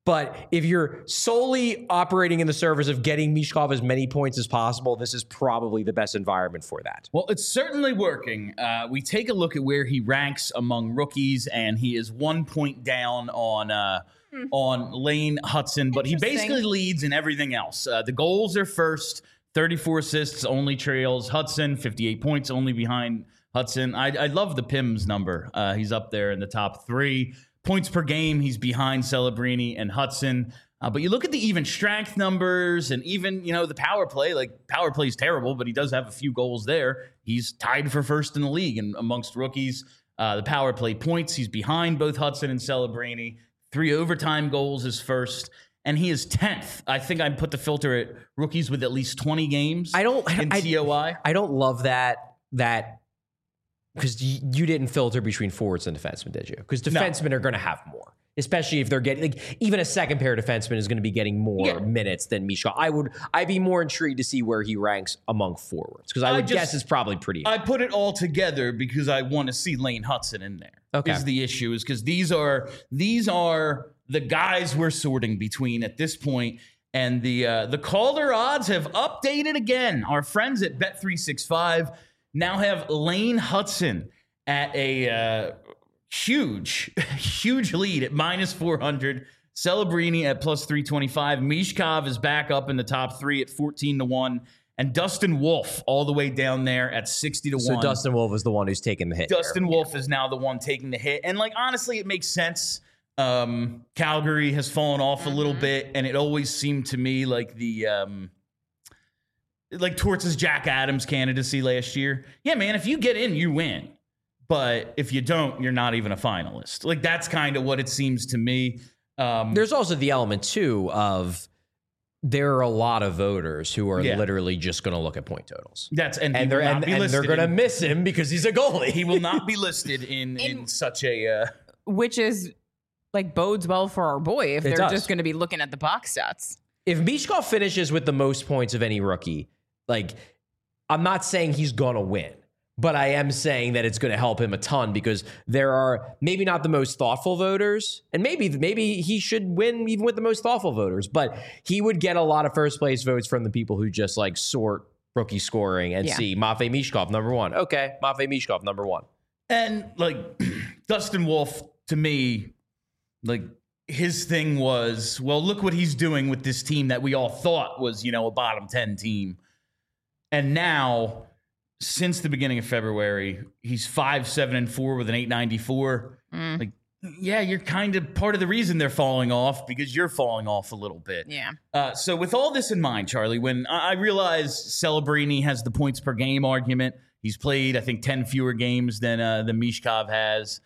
But if you're solely operating in the service of getting Michkov as many points as possible, this is probably the best environment for that. Well, it's certainly working. Uh, we take a look at where he ranks among rookies, and he is one point down on uh, hmm. on Lane Hudson, but he basically leads in everything else. Uh, the goals are first, thirty-four assists, only trails Hudson, fifty-eight points, only behind Hudson. I, I love the P I Ms number. Uh, he's up there in the top three. Points per game, he's behind Celebrini and Hudson. Uh, but you look at the even strength numbers and even, you know, the power play. Like, power play is terrible, but he does have a few goals there. He's tied for first in the league and amongst rookies. Uh, the power play points, he's behind both Hudson and Celebrini. Three overtime goals is first. And he is tenth. I think I'd put the filter at rookies with at least twenty games I don't, in I, T O I. I don't love that, that because you, you didn't filter between forwards and defensemen, did you? Because defensemen no. are going to have more, especially if they're getting, like, even a second pair defenseman is going to be getting more yeah. minutes than Michkov. I would, I'd be more intrigued to see where he ranks among forwards, because I would I just, guess it's probably pretty. I put it all together because I want to see Lane Hudson in there. Okay. Is the issue, is because these are, these are, the guys we're sorting between at this point, and the uh, the Calder odds have updated again. Our friends at Bet three sixty-five now have Lane Hudson at a uh, huge, huge lead at minus four hundred. Celebrini at plus three twenty-five. Michkov is back up in the top three at fourteen to one. And Dustin Wolf all the way down there at sixty to one. So Dustin Wolf is the one who's taking the hit. Dustin there. Wolf yeah. is now the one taking the hit. And, like, honestly, it makes sense. Um, Calgary has fallen off a little bit, and it always seemed to me like the um, like Torts' Jack Adams candidacy last year. Yeah, man, if you get in, you win. But if you don't, you're not even a finalist. Like, that's kind of what it seems to me. Um, There's also the element, too, of there are a lot of voters who are yeah. literally just going to look at point totals. That's and, and they're and, and they're going to miss him because he's a goalie. He will not be listed in in, in such a uh, which is. Like, bodes well for our boy if it they're does. just going to be looking at the box stats. If Michkov finishes with the most points of any rookie, like, I'm not saying he's going to win, but I am saying that it's going to help him a ton, because there are maybe not the most thoughtful voters, and maybe maybe he should win even with the most thoughtful voters, but he would get a lot of first place votes from the people who just, like, sort rookie scoring and yeah. see Matvei Michkov number one. Okay, Matvei Michkov number one. And, like, Dustin Wolf, to me, like, his thing was, well, look what he's doing with this team that we all thought was, you know, a bottom ten team. And now, since the beginning of February, he's five, seven, and four with an eight ninety-four. Mm. Like, yeah, you're kind of part of the reason they're falling off, because you're falling off a little bit. Yeah. Uh, so with all this in mind, Charlie, when I, I realize Celebrini has the points per game argument, he's played, I think, ten fewer games than uh, than Michkov has.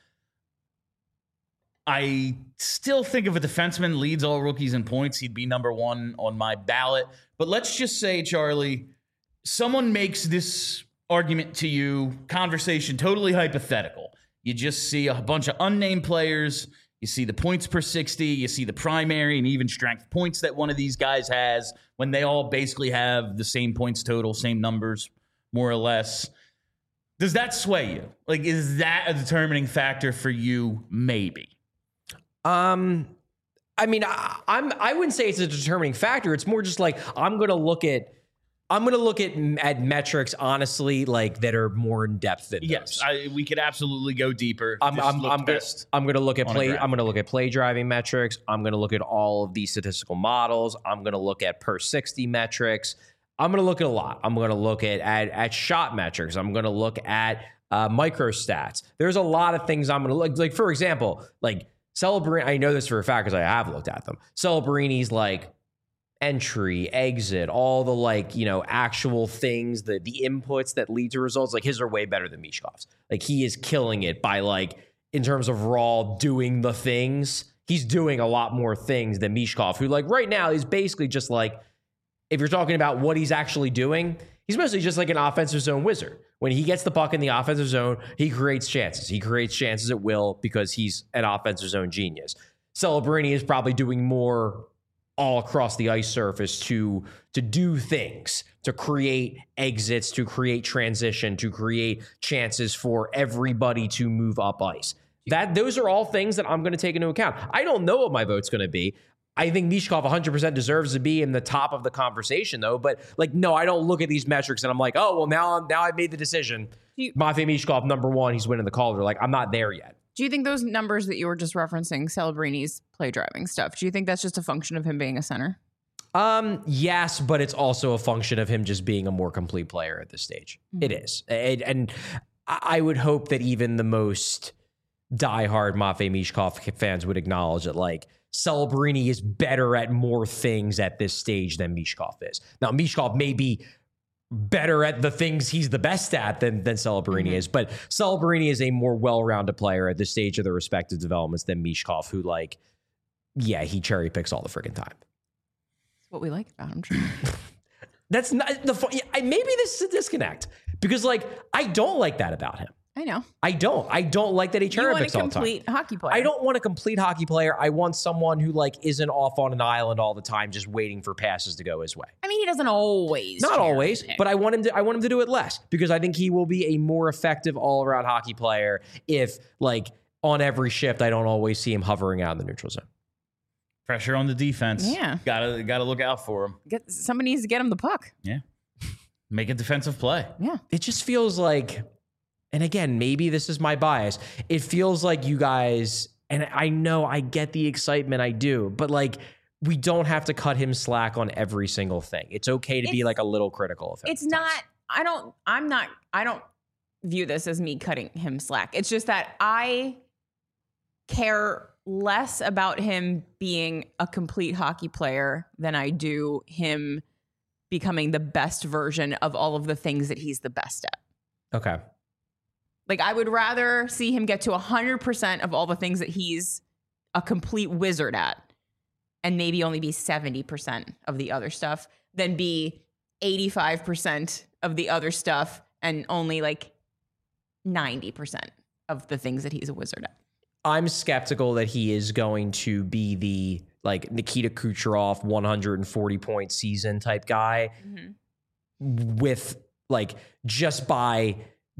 I still think if a defenseman leads all rookies in points, he'd be number one on my ballot. But let's just say, Charlie, someone makes this argument to you, conversation totally hypothetical. You just see a bunch of unnamed players. You see the points per sixty. You see the primary and even strength points that one of these guys has, when they all basically have the same points total, same numbers, more or less. Does that sway you? Like, is that a determining factor for you? Maybe. Um, I mean, I, I'm, I wouldn't say it's a determining factor. It's more just like, I'm going to look at, I'm going to look at, at metrics, honestly, like, that are more in depth than yes, those. I, we could absolutely go deeper. I'm, I'm, I'm, gonna, I'm going to look at play. I'm going to look at play driving metrics. I'm going to look at all of these statistical models. I'm going to look at per sixty metrics. I'm going to look at a lot. I'm going to look at, at, at shot metrics. I'm going to look at uh, micro stats. There's a lot of things I'm going to look, like, for example, like, Celebrini, I know this for a fact because I have looked at them. Celebrini's, like, entry, exit, all the, like, you know, actual things, the the inputs that lead to results, like, his are way better than Michkov's. Like, he is killing it by, like, in terms of raw doing the things. He's doing a lot more things than Michkov, who, like, right now is basically just, like, if you're talking about what he's actually doing, he's mostly just like an offensive zone wizard. When he gets the puck in the offensive zone, he creates chances. He creates chances at will because he's an offensive zone genius. Celebrini is probably doing more all across the ice surface to, to do things, to create exits, to create transition, to create chances for everybody to move up ice. That those are all things that I'm going to take into account. I don't know what my vote's going to be. I think Mishkov one hundred percent deserves to be in the top of the conversation, though. But like, no, I don't look at these metrics and I'm like, oh, well, now I'm now I've made the decision. You, Matvei Mishkov, number one, he's winning the Calder. Like, I'm not there yet. do you think those numbers that you were just referencing, Celebrini's play driving stuff, do you think that's just a function of him being a center? Um, yes, but it's also a function of him just being a more complete player at this stage. Mm-hmm. It is. And, and I would hope that even the most diehard Matvei Mishkov fans would acknowledge that, like, Celebrini is better at more things at this stage than Mishkov is. Now, Mishkov may be better at the things he's the best at than, than Celebrini mm-hmm. is, but Celebrini is a more well-rounded player at this stage of their respective developments than Mishkov, who, like, yeah, he cherry picks all the freaking time. That's what we like about him. Sure. That's not the fun. Maybe this is a disconnect because, like, I don't like that about him. I know. I don't. I don't like that he cherry picks all the time. You want a complete hockey player. I don't want a complete hockey player. I want someone who, like, isn't off on an island all the time, just waiting for passes to go his way. I mean, he doesn't always. Not always, pick. But I want him to. I want him to do it less because I think he will be a more effective all-around hockey player if, like, on every shift, I don't always see him hovering out in the neutral zone. Pressure on the defense. Yeah, gotta gotta look out for him. Get somebody needs to get him the puck. Yeah, make a defensive play. Yeah, it just feels like. And again, maybe this is my bias. It feels like you guys, and I know I get the excitement, I do, but, like, we don't have to cut him slack on every single thing. It's okay to it's, be, like, a little critical of him. It's not, I don't, I'm not, I don't view this as me cutting him slack. It's just that I care less about him being a complete hockey player than I do him becoming the best version of all of the things that he's the best at. Okay. Like, I would rather see him get to one hundred percent of all the things that he's a complete wizard at and maybe only be seventy percent of the other stuff than be eighty-five percent of the other stuff and only, like, ninety percent of the things that he's a wizard at. I'm skeptical that he is going to be the, like, Nikita Kucherov one hundred forty point season type guy mm-hmm. with, like, just by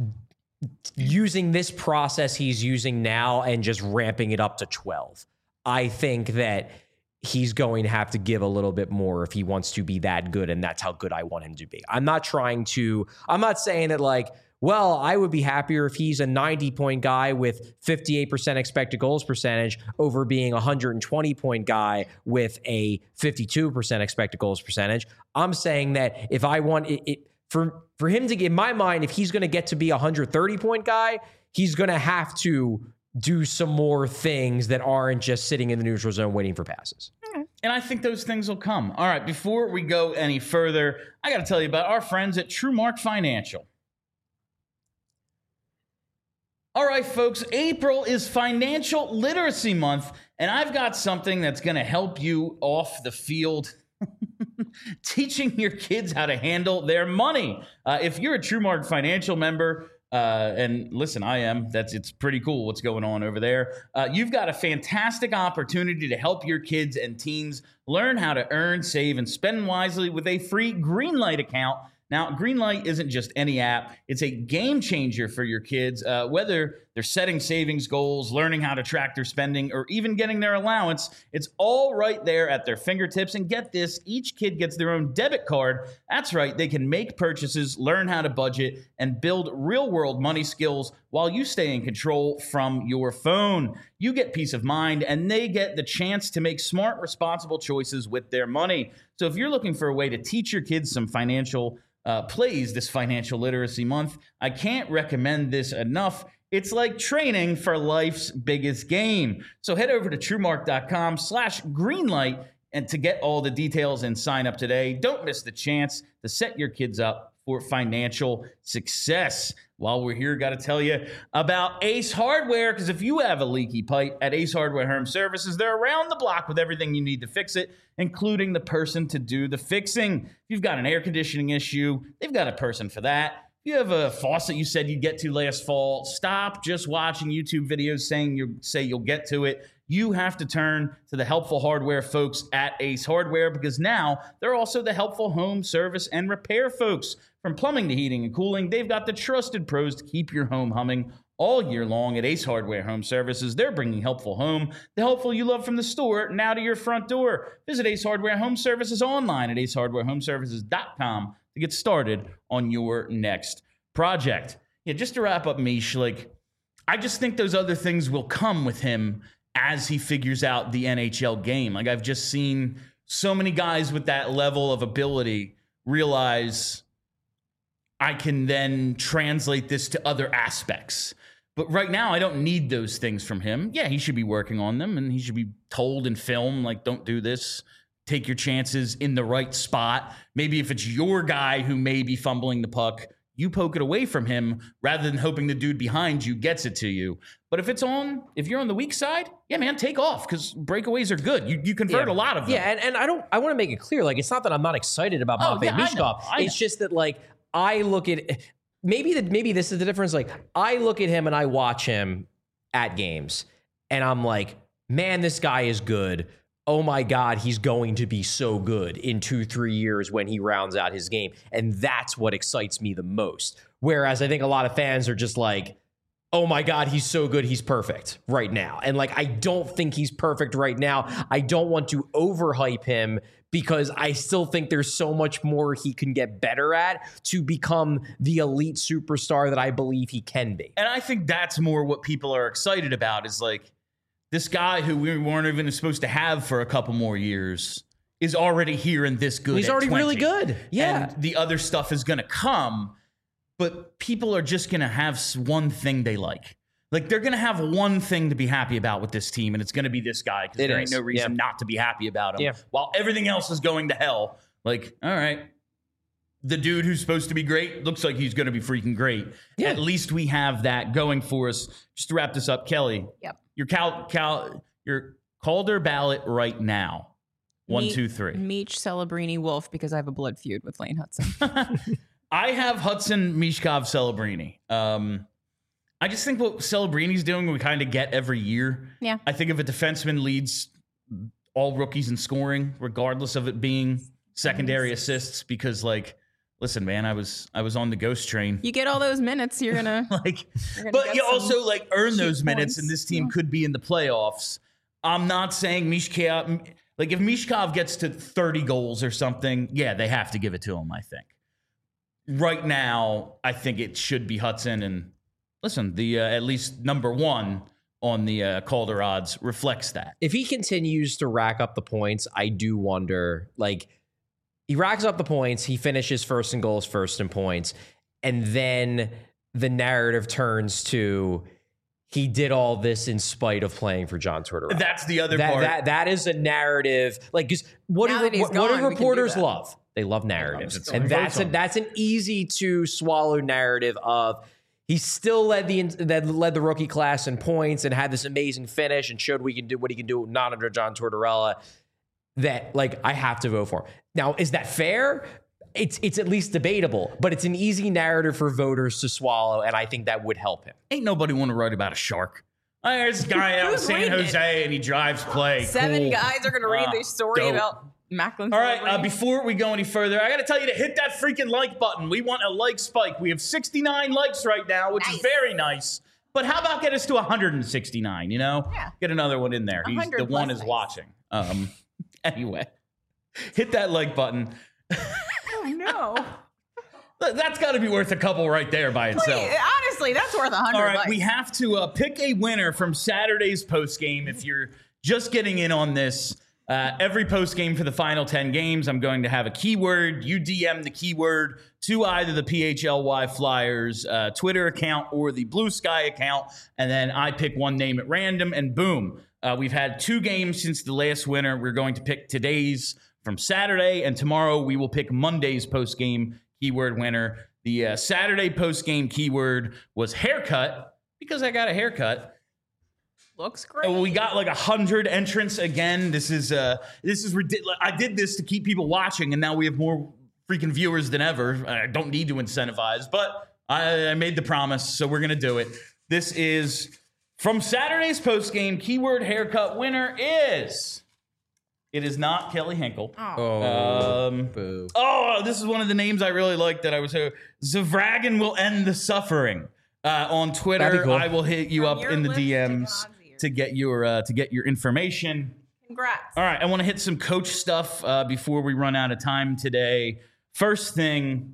using this process he's using now and just ramping it up to twelve. I think that he's going to have to give a little bit more if he wants to be that good, and that's how good I want him to be. I'm not trying to, I'm not saying that, like, well, I would be happier if he's a ninety point guy with fifty-eight percent expected goals percentage over being a one hundred twenty point guy with a fifty-two percent expected goals percentage. I'm saying that if I want it, it For for him to get, in my mind, if he's going to get to be a one hundred thirty point guy, he's going to have to do some more things that aren't just sitting in the neutral zone waiting for passes. Okay. And I think those things will come. All right, before we go any further, I got to tell you about our friends at TrueMark Financial. All right, folks, April is Financial Literacy Month, and I've got something that's going to help you off the field. Teaching your kids how to handle their money. Uh, if you're a TrueMark Financial member, uh, and listen, I am, that's it's pretty cool what's going on over there. Uh, you've got a fantastic opportunity to help your kids and teens learn how to earn, save, and spend wisely with a free Greenlight account. Now, Greenlight isn't just any app. It's a game changer for your kids, uh, whether they're setting savings goals, learning how to track their spending, or even getting their allowance. It's all right there at their fingertips. And get this, each kid gets their own debit card. That's right. They can make purchases, learn how to budget, and build real-world money skills while you stay in control from your phone. You get peace of mind, and they get the chance to make smart, responsible choices with their money. So if you're looking for a way to teach your kids some financial Uh, plays this Financial Literacy Month, I can't recommend this enough. It's like training for life's biggest game. So head over to TrueMark.com slash Greenlight and to get all the details and sign up today. Don't miss the chance to set your kids up for financial success. While we're here, got to tell you about Ace Hardware, because if you have a leaky pipe at Ace Hardware Home Services, they're around the block with everything you need to fix it, including the person to do the fixing. If you've got an air conditioning issue, they've got a person for that. If you have a faucet you said you'd get to last fall, stop just watching YouTube videos saying you say you'll get to it. You have to turn to the helpful hardware folks at Ace Hardware, because now they're also the helpful home service and repair folks. From plumbing to heating and cooling, they've got the trusted pros to keep your home humming all year long. At Ace Hardware Home Services, they're bringing helpful home, the helpful you love from the store, now to your front door. Visit Ace Hardware Home Services online at ace hardware home services dot com to get started on your next project. Yeah, just to wrap up, Mish, like, I just think those other things will come with him as he figures out the N H L game. Like, I've just seen so many guys with that level of ability realize I can then translate this to other aspects. But right now, I don't need those things from him. Yeah, he should be working on them, and he should be told in film, like, don't do this. Take your chances in the right spot. Maybe if it's your guy who may be fumbling the puck, you poke it away from him rather than hoping the dude behind you gets it to you. But if it's on, if you're on the weak side, yeah, man, take off, because breakaways are good. You you convert yeah. a lot of them. Yeah, and, and I don't. I want to make it clear, like, it's not that I'm not excited about Oh, Matvei yeah, I know, Michkov. I know. It's just that, like, I look at maybe that maybe this is the difference. Like, I look at him and I watch him at games, and I'm like, man, this guy is good. Oh my God, he's going to be so good in two, three years when he rounds out his game. And that's what excites me the most. Whereas I think a lot of fans are just like, oh my God, he's so good, he's perfect right now. And like, I don't think he's perfect right now. I don't want to overhype him because I still think there's so much more he can get better at to become the elite superstar that I believe he can be. And I think that's more what people are excited about, is like, this guy who we weren't even supposed to have for a couple more years is already here and this good. He's at already twenty. really good. Yeah. And the other stuff is going to come, but people are just going to have one thing they like. Like, they're going to have one thing to be happy about with this team, and it's going to be this guy, because there is. ain't no reason Yeah. not to be happy about him. Yeah. While everything else is going to hell. Like, all right, the dude who's supposed to be great looks like he's going to be freaking great. Yeah. At least we have that going for us. Just to wrap this up, Kelly. Yep. Your Cal, Cal, your Calder ballot right now. One, Me- two, three. Meech, Celebrini, Wolf, because I have a blood feud with Lane Hudson. I have Hudson, Mishkov, Celebrini. Um, I just think what Celebrini's doing, we kind of get every year. Yeah. I think if a defenseman leads all rookies in scoring, regardless of it being secondary assists, because, like, listen, man, I was I was on the ghost train. You get all those minutes, you're gonna. like, You're gonna but get you some also like earn cheap those minutes, points. and this team could be in the playoffs. I'm not saying Mishkov, like, if Mishkov gets to thirty goals or something, yeah, they have to give it to him, I think. Right now, I think it should be Hudson. And listen, the uh, at least number one on the uh, Calder odds reflects that. If he continues to rack up the points, I do wonder, like, he racks up the points, he finishes first in goals, first in points, and then the narrative turns to he did all this in spite of playing for John Tortorella. That's the other that, part. That, that is a narrative. Like, 'cause what Now do, that he's what, what gone, do we can do reporters that. love? They love narratives. It's And like that's a, votes on that's an easy to swallow narrative of he still led the that led the rookie class in points and had this amazing finish and showed we can do what he can do not under John Tortorella. That, like, I have to vote for. Now, is that fair? It's it's at least debatable, but it's an easy narrative for voters to swallow, and I think that would help him. Ain't nobody want to write about a shark. Oh, there's a guy out in Who's San reading it? Jose, and he drives play. Seven Cool. guys are gonna read Ah, this story dope. about Macklin. All right, uh, Celebrini. before we go any further, I got to tell you to hit that freaking like button. We want a like spike. We have sixty-nine likes right now, which is Nice. very nice. But how about get us to one hundred sixty-nine, you know? Yeah. Get another one in there. He's, one hundred the one plus is likes. watching. Um, anyway, hit that like button. Oh no! That's got to be worth a couple right there by itself. Wait, honestly, that's worth a hundred. All right, likes. we have to uh, pick a winner from Saturday's post game. If you're just getting in on this, uh, every post game for the final ten games, I'm going to have a keyword. You D M the keyword to either the P H L Y Flyers uh, Twitter account or the Blue Sky account, and then I pick one name at random, and boom. Uh, we've had two games since the last winner. We're going to pick today's from Saturday, and tomorrow we will pick Monday's post game keyword winner. The uh, Saturday post game keyword was haircut, because I got a haircut. Looks great. And we got like a hundred entrants again. This is uh, this is ridiculous. I did this to keep people watching, and now we have more freaking viewers than ever. I don't need to incentivize, but I, I made the promise, so we're gonna do it. This is from Saturday's post game keyword haircut. Winner is It is not Kelly Hinkle. Oh, Um, boo. oh, this is one of the names I really like that I was. Uh, Zavragan will end the suffering. Uh, on Twitter, That'd be cool. I will hit you From up your in the lips to D Ms God's ears. to get your uh, to get your information. Congrats. All right, I want to hit some coach stuff uh, before we run out of time today. First thing,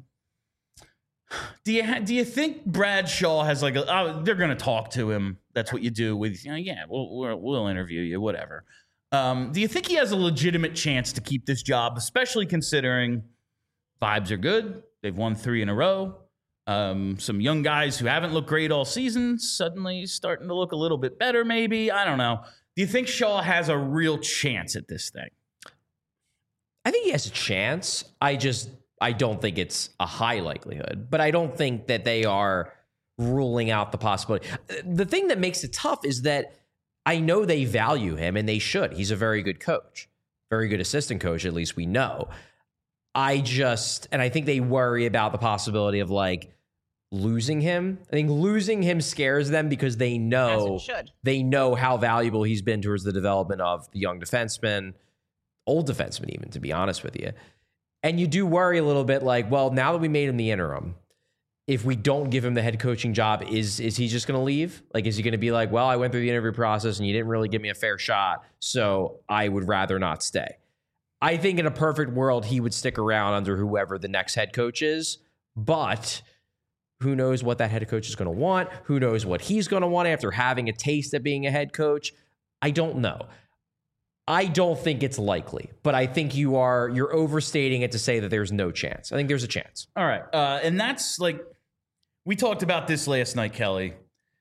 do you ha- do you think Bradshaw has like a? Oh, they're going to talk to him. That's what you do with. You know, yeah, we'll, we'll we'll interview you, whatever. Um, do you think he has a legitimate chance to keep this job, especially considering vibes are good? They've won three in a row. Um, some young guys who haven't looked great all season suddenly starting to look a little bit better, maybe. I don't know. Do you think Shaw has a real chance at this thing? I think he has a chance. I just I don't think it's a high likelihood, but I don't think that they are ruling out the possibility. The thing that makes it tough is that I know they value him, and they should. He's a very good coach, very good assistant coach, at least we know. I just, and I think they worry about the possibility of like losing him. I think losing him scares them because they know As it should. they know how valuable he's been towards the development of the young defenseman, old defenseman even, to be honest with you. And you do worry a little bit like, well, now that we made him the interim, if we don't give him the head coaching job, is is he just going to leave? Like, is he going to be like, well, I went through the interview process and you didn't really give me a fair shot, so I would rather not stay. I think in a perfect world, he would stick around under whoever the next head coach is, but who knows what that head coach is going to want? Who knows what he's going to want after having a taste of being a head coach? I don't know. I don't think it's likely, but I think you are, you're overstating it to say that there's no chance. I think there's a chance. All right. Uh, and that's like, we talked about this last night, Kelly.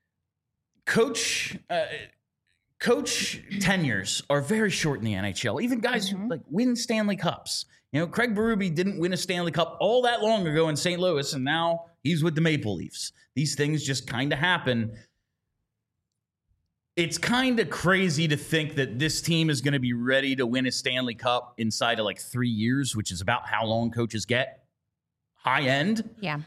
Coach, uh, coach tenures are very short in the N H L. Even guys Mhm. who like win Stanley Cups. You know, Craig Berube didn't win a Stanley Cup all that long ago in Saint Louis, and now he's with the Maple Leafs. These things just kind of happen. It's kind of crazy to think that this team is going to be ready to win a Stanley Cup inside of like three years, which is about how long coaches get. High end. Yeah.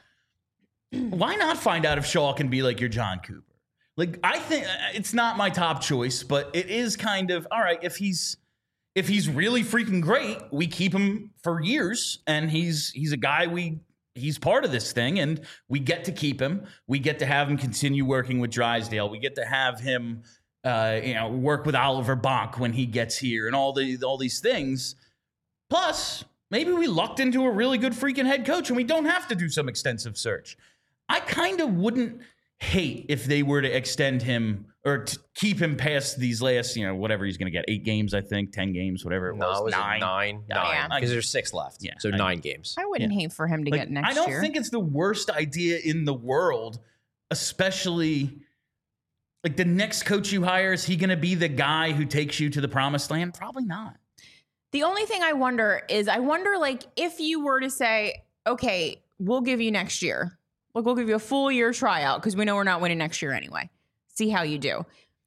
Why not find out if Shaw can be like your John Cooper? Like, I think it's not my top choice, but it is kind of, all right, if he's if he's really freaking great, we keep him for years, and he's he's a guy we he's part of this thing, and we get to keep him. We get to have him continue working with Drysdale. We get to have him uh, you know, work with Oliver Bonk when he gets here, and all the all these things. Plus, maybe we lucked into a really good freaking head coach, and we don't have to do some extensive search. I kind of wouldn't hate if they were to extend him or to keep him past these last, you know, whatever he's going to get, eight games, I think, ten games, whatever it was. No, was nine. it nine? Yeah. Nine. Yeah. Because there's six left. Yeah, So I- nine games. I wouldn't hate for him to Like, get next I don't year. think it's the worst idea in the world, especially like the next coach you hire, is he going to be the guy who takes you to the promised land? Probably not. The only thing I wonder is I wonder, like, if you were to say, okay, we'll give you next year. Like, we'll give you a full year tryout because we know we're not winning next year anyway. See how you do.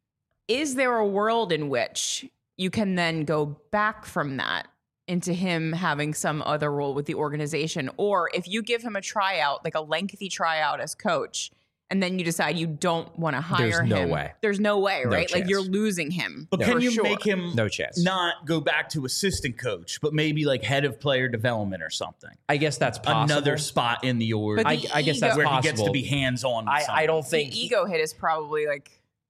Is there a world in which you can then go back from that into him having some other role with the organization? Or if you give him a tryout, like a lengthy tryout as coach, and then you decide you don't want to hire There's him. no way. There's no way, No right? Like, chance. you're losing him. But No. can for you sure. make him No chance. not go back to assistant coach, but maybe like head of player development or something? I guess that's possible. Another spot in the org But I, the I guess that's where possible. he gets to be hands-on. with I, I something. don't The think ego hit is probably like,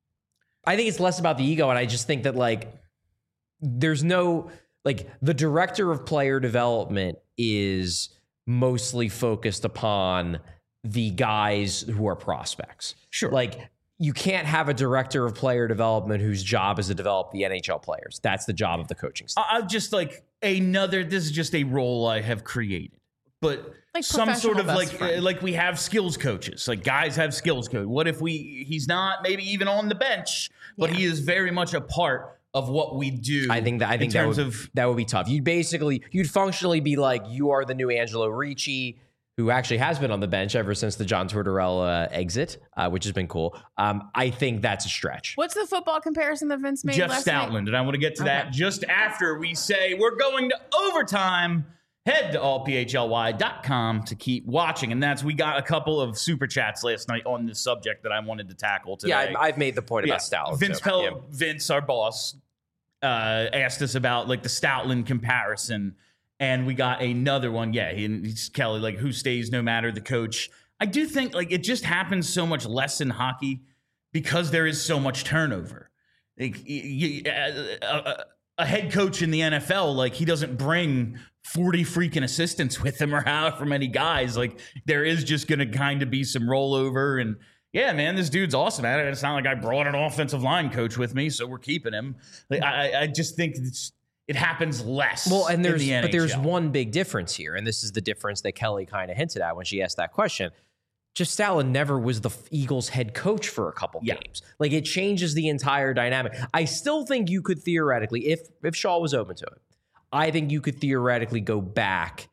I think it's less about the ego, and I just think that like there's no like the director of player development is mostly focused upon the guys who are prospects. Sure. Like you can't have a director of player development whose job is to develop the N H L players. That's the job of the coaching staff. I- I'm just like another. This is just a role I have created, but Like some sort of professional like best friend. uh, like we have skills coaches. Like guys have skills coach. What if we? He's not maybe even on the bench, but Yeah. he is very much a part of what we do. I think that I think in that terms would, of that would be tough. You'd basically you'd functionally be like you are the new Angelo Ricci, who actually has been on the bench ever since the John Tortorella exit, uh, which has been cool. Um, I think that's a stretch. what's the football comparison that Vince made Jeff last night? Stoutland, and I want to get to that Okay. just after we say we're going to overtime. Head to all p h l y dot com to keep watching. And that's, we got a couple of super chats last night on this subject that I wanted to tackle today. Yeah, I, I've made the point about Stalin. Vince too. Pell, Yeah. Vince, our boss, uh, asked us about like the Stoutland comparison, and we got another one. Yeah, he, he's Kelly, like who stays no matter the coach. I do think like it just happens so much less in hockey because there is so much turnover. Like you, you, a, a, a head coach in the N F L, like he doesn't bring forty freaking assistants with him or however many guys. Like there is just going to kind of be some rollover. And yeah, man, this dude's awesome at it. It's not like I brought an offensive line coach with me, so we're keeping him. Like I, I just think it's, it happens less. Well, and there's in the N H L. But there's one big difference here, and this is the difference that Kelly kind of hinted at when she asked that question. Jeff Stoutland never was the Eagles head coach for a couple yeah. games. Like it changes the entire dynamic. I still think you could theoretically, if if Shaw was open to it, I think you could theoretically go back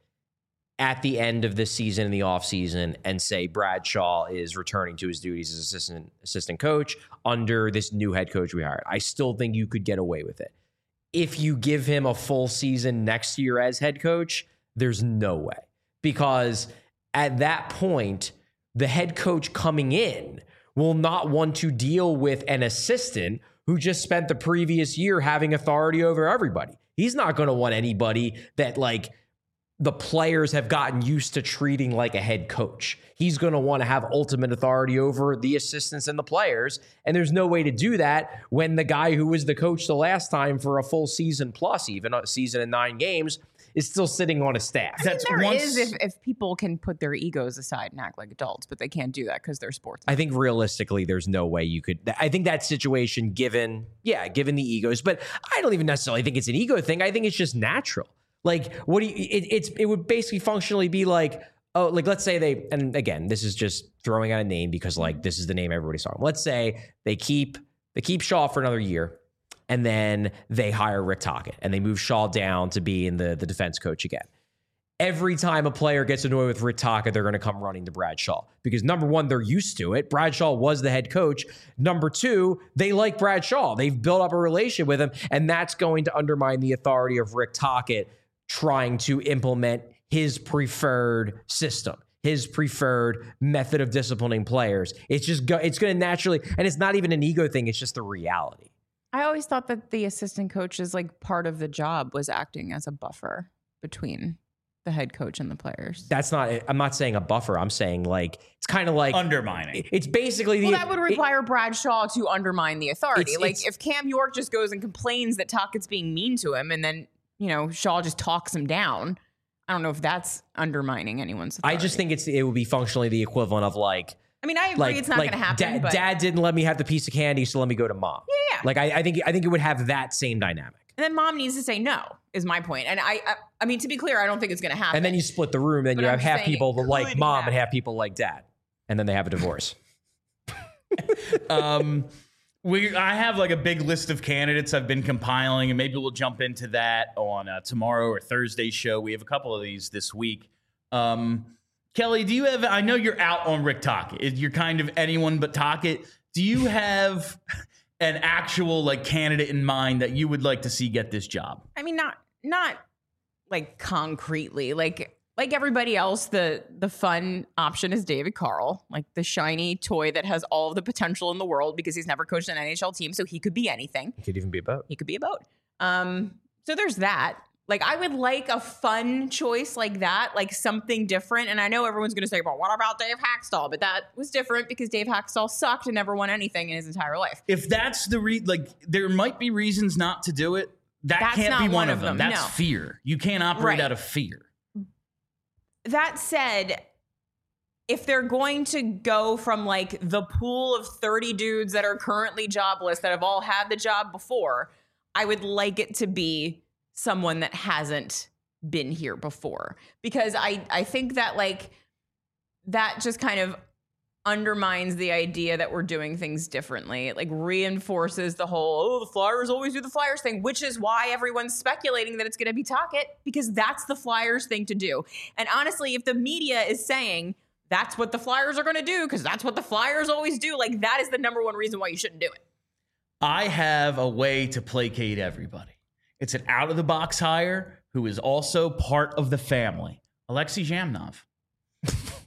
at the end of this season in the offseason and say Brad Shaw is returning to his duties as assistant assistant coach under this new head coach we hired. I still think you could get away with it. If you give him a full season next year as head coach, there's no way. Because at that point, the head coach coming in will not want to deal with an assistant who just spent the previous year having authority over everybody. He's not going to want anybody that like the players have gotten used to treating like a head coach. He's going to want to have ultimate authority over the assistants and the players. And there's no way to do that when the guy who was the coach the last time for a full season plus, even a season and nine games, is still sitting on a staff. I mean, That's there once, is if, if people can put their egos aside and act like adults, but they can't do that because they're sports. I think realistically, there's no way you could. I think that situation, given, yeah, given the egos, but I don't even necessarily think it's an ego thing. I think it's just natural. Like, what do you, it, it's, it would basically functionally be like, oh, like, let's say they, and again, this is just throwing out a name because like, this is the name everybody's talking. Let's say they keep, they keep Shaw for another year. And then they hire Rick Tocchet and they move Shaw down to be in the, the defense coach again. Every time a player gets annoyed with Rick Tocchet, they're going to come running to Brad Shaw because number one, they're used to it. Brad Shaw was the head coach. Number two, they like Brad Shaw. They've built up a relationship with him, and that's going to undermine the authority of Rick Tocchet trying to implement his preferred system, his preferred method of disciplining players. It's just go, it's going to naturally, and it's not even an ego thing. It's just the reality. I always thought that the assistant coach is like part of the job was acting as a buffer between the head coach and the players. That's not, I'm not saying a buffer. I'm saying like, it's kind of like undermining. It's basically the, well, that would require it, Brad Shaw to undermine the authority. It's, like it's, if Cam York just goes and complains that Tocchett's being mean to him and then, you know, Shaw just talks him down. I don't know if that's undermining anyone's authority. I just think it's, it would be functionally the equivalent of like, I mean, I agree like, it's not like going to happen. Dad, but dad didn't let me have the piece of candy, so let me go to mom. Yeah, yeah. Like I, I think I think it would have that same dynamic. And then mom needs to say no, is my point. And I, I, I mean, to be clear, I don't think it's going to happen. And then you split the room, and But you I'm have half saying people it that like could mom happen. and half people like dad, and then they have a divorce. um, we I have like a big list of candidates I've been compiling, and maybe we'll jump into that on uh, tomorrow or Thursday's show. We have a couple of these this week. Um, Kelly, do you have, I know you're out on Rick Tocchet. You're kind of anyone but Tocchet. Do you have an actual like candidate in mind that you would like to see get this job? I mean, not, not like concretely, like, like everybody else, the, the fun option is David Carl, like the shiny toy that has all of the potential in the world because he's never coached an N H L team. So he could be anything. It could even be a boat. He could be a boat. Um, so there's that. Like, I would like a fun choice like that, like something different. And I know everyone's going to say, well, what about Dave Hackstall? But that was different because Dave Hackstall sucked and never won anything in his entire life. If that's the re like, there might be reasons not to do it. That That's can't not be one, one of of them. them, That's no. fear. You can't operate Right. out of fear. That said, if they're going to go from like the pool of thirty dudes that are currently jobless that have all had the job before, I would like it to be someone that hasn't been here before, because I, I think that like that just kind of undermines the idea that we're doing things differently. It like reinforces the whole, oh, the Flyers always do the Flyers thing, which is why everyone's speculating that it's going to be Tocchet, because that's the Flyers thing to do. And honestly, if the media is saying that's what the Flyers are going to do because that's what the Flyers always do, like that is the number one reason why you shouldn't do it. I have a way to placate everybody. It's an out-of-the-box hire who is also part of the family. Alexei Zhamnov.